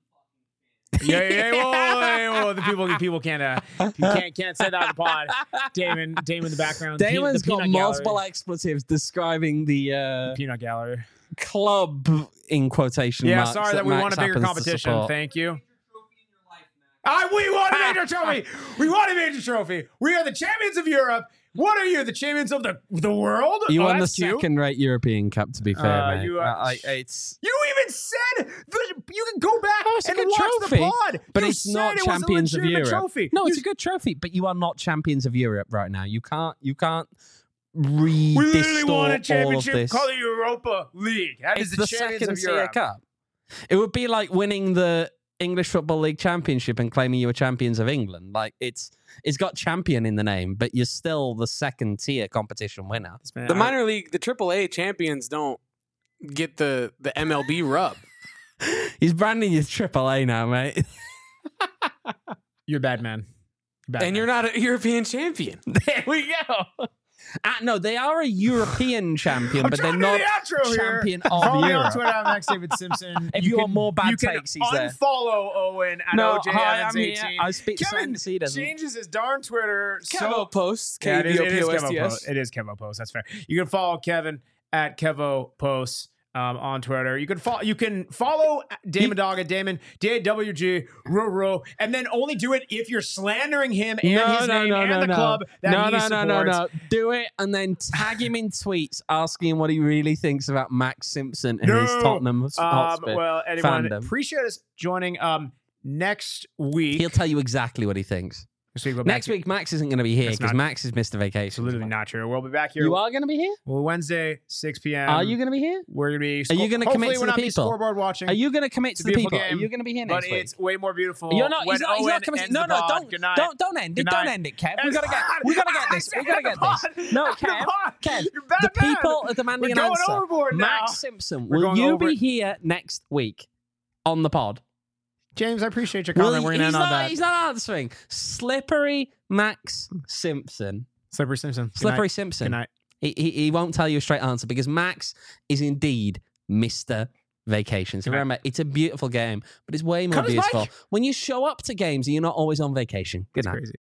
Speaker 2: Whoa, the people can't say that on the pod. Damon in the background.
Speaker 1: Damon's
Speaker 2: the
Speaker 1: got
Speaker 2: peanut
Speaker 1: multiple
Speaker 2: gallery.
Speaker 1: expletives describing the
Speaker 2: Peanut gallery.
Speaker 1: club in quotation
Speaker 2: Yeah,
Speaker 1: marks.
Speaker 2: sorry that we
Speaker 1: Max
Speaker 2: won a bigger
Speaker 1: happens to
Speaker 2: competition.
Speaker 1: support.
Speaker 2: Thank you. We won a major trophy. We won a major trophy. We are the champions of Europe. What are you? The champions of the world?
Speaker 1: You won the
Speaker 2: that's cute.
Speaker 1: second-rate European Cup, to be fair, mate.
Speaker 2: you,
Speaker 1: It's
Speaker 2: You even said you can go back
Speaker 1: Oh, it's a
Speaker 2: and
Speaker 1: good
Speaker 2: watch
Speaker 1: trophy,
Speaker 2: the pod.
Speaker 1: but
Speaker 2: You
Speaker 1: it's
Speaker 2: said
Speaker 1: not
Speaker 2: it was a
Speaker 1: champions of
Speaker 2: legitimate
Speaker 1: Europe.
Speaker 2: Trophy.
Speaker 1: No,
Speaker 2: You
Speaker 1: it's a good trophy, but you are not champions of Europe right now. You can't
Speaker 2: We literally
Speaker 1: re-distort
Speaker 2: won a
Speaker 1: all of
Speaker 2: championship
Speaker 1: this.
Speaker 2: called the Europa League. That is
Speaker 1: It's
Speaker 2: the
Speaker 1: the
Speaker 2: champions
Speaker 1: second
Speaker 2: of
Speaker 1: tier
Speaker 2: Europe.
Speaker 1: cup. It would be like winning the English Football League Championship and claiming you were champions of England. Like it's got champion in the name, but you're still the second tier competition winner.
Speaker 3: The minor league, the AAA champions don't get the MLB rub.
Speaker 1: He's branding you AAA now, mate.
Speaker 2: You're a bad man.
Speaker 3: And you're not a European champion.
Speaker 1: There we go. No, they are a European champion, but they're not champion of
Speaker 2: Follow me on
Speaker 1: Europe.
Speaker 2: Twitter, I'm Max David Simpson.
Speaker 1: If you want more bad
Speaker 2: you can
Speaker 1: takes, he's there.
Speaker 2: unfollow Owen at
Speaker 1: No,
Speaker 2: OJ
Speaker 1: hi,
Speaker 2: Evans
Speaker 1: I'm
Speaker 2: 18.
Speaker 1: here. I speak to
Speaker 2: Kevin
Speaker 1: Sandy, he doesn't.
Speaker 2: changes his darn Twitter.
Speaker 3: Kevo posts.
Speaker 2: Yeah, it is Kevo
Speaker 3: KVOPOSTS.
Speaker 2: Post. It is Kevo Post. That's fair. You can follow Kevin at Kevo Post on Twitter. You can follow Damon Dog at Damon DAWG Roro, and then only do it if you're slandering him and his name and the club that he supports.
Speaker 1: Do it and then tag him in tweets asking him what he really thinks about Max Simpson and his Tottenham Hotspur
Speaker 2: well, anyone,
Speaker 1: fandom.
Speaker 2: appreciate us joining next week.
Speaker 1: He'll tell you exactly what he thinks. Next week, Max isn't going to be here
Speaker 2: That's
Speaker 1: because
Speaker 2: not-
Speaker 1: Max has missed a vacation.
Speaker 2: It's literally not true. We'll be back here.
Speaker 1: You are going to be here?
Speaker 2: Well, Wednesday, 6 p.m.
Speaker 1: Are you going to be here?
Speaker 2: We're going to be.
Speaker 1: Are you going to commit
Speaker 2: hopefully
Speaker 1: to
Speaker 2: we'll
Speaker 1: the
Speaker 2: not be
Speaker 1: people?
Speaker 2: scoreboard watching.
Speaker 1: Are you going to commit
Speaker 2: It's
Speaker 1: to
Speaker 2: a
Speaker 1: the
Speaker 2: beautiful
Speaker 1: people?
Speaker 2: game,
Speaker 1: Are you going to be here
Speaker 2: but
Speaker 1: next week?
Speaker 2: it's way more beautiful.
Speaker 1: You're not.
Speaker 2: when
Speaker 1: He's not
Speaker 2: Owen
Speaker 1: coming.
Speaker 2: ends
Speaker 1: No,
Speaker 2: the
Speaker 1: no,
Speaker 2: pod. Good night.
Speaker 1: don't end it.
Speaker 2: Good
Speaker 1: Don't
Speaker 2: night.
Speaker 1: end it, Kev.
Speaker 2: It's
Speaker 1: We gotta
Speaker 2: hot.
Speaker 1: get this. We
Speaker 2: I
Speaker 1: gotta
Speaker 2: said
Speaker 1: get
Speaker 2: the
Speaker 1: this.
Speaker 2: pod.
Speaker 1: No,
Speaker 2: The
Speaker 1: Kev.
Speaker 2: pod.
Speaker 1: Kev.
Speaker 2: You're bad
Speaker 1: The
Speaker 2: man.
Speaker 1: people are demanding
Speaker 2: We're
Speaker 1: an
Speaker 2: going
Speaker 1: answer.
Speaker 2: overboard now.
Speaker 1: Max Simpson,
Speaker 2: We're
Speaker 1: will
Speaker 2: going
Speaker 1: you
Speaker 2: over
Speaker 1: be
Speaker 2: it.
Speaker 1: here next week on the pod?
Speaker 2: James, I appreciate your comment. We're going to end on that.
Speaker 1: He's not answering. Slippery Max Simpson.
Speaker 2: Slippery Simpson. Good
Speaker 1: Slippery
Speaker 2: night.
Speaker 1: Simpson.
Speaker 2: Good night.
Speaker 1: He won't tell you a straight answer because Max is indeed Mr. Vacations. Remember, it's a beautiful game, but it's way more
Speaker 2: Cut his
Speaker 1: beautiful
Speaker 2: mic.
Speaker 1: when you show up to games and you're not always on vacation. Good
Speaker 2: It's
Speaker 1: night.
Speaker 2: crazy.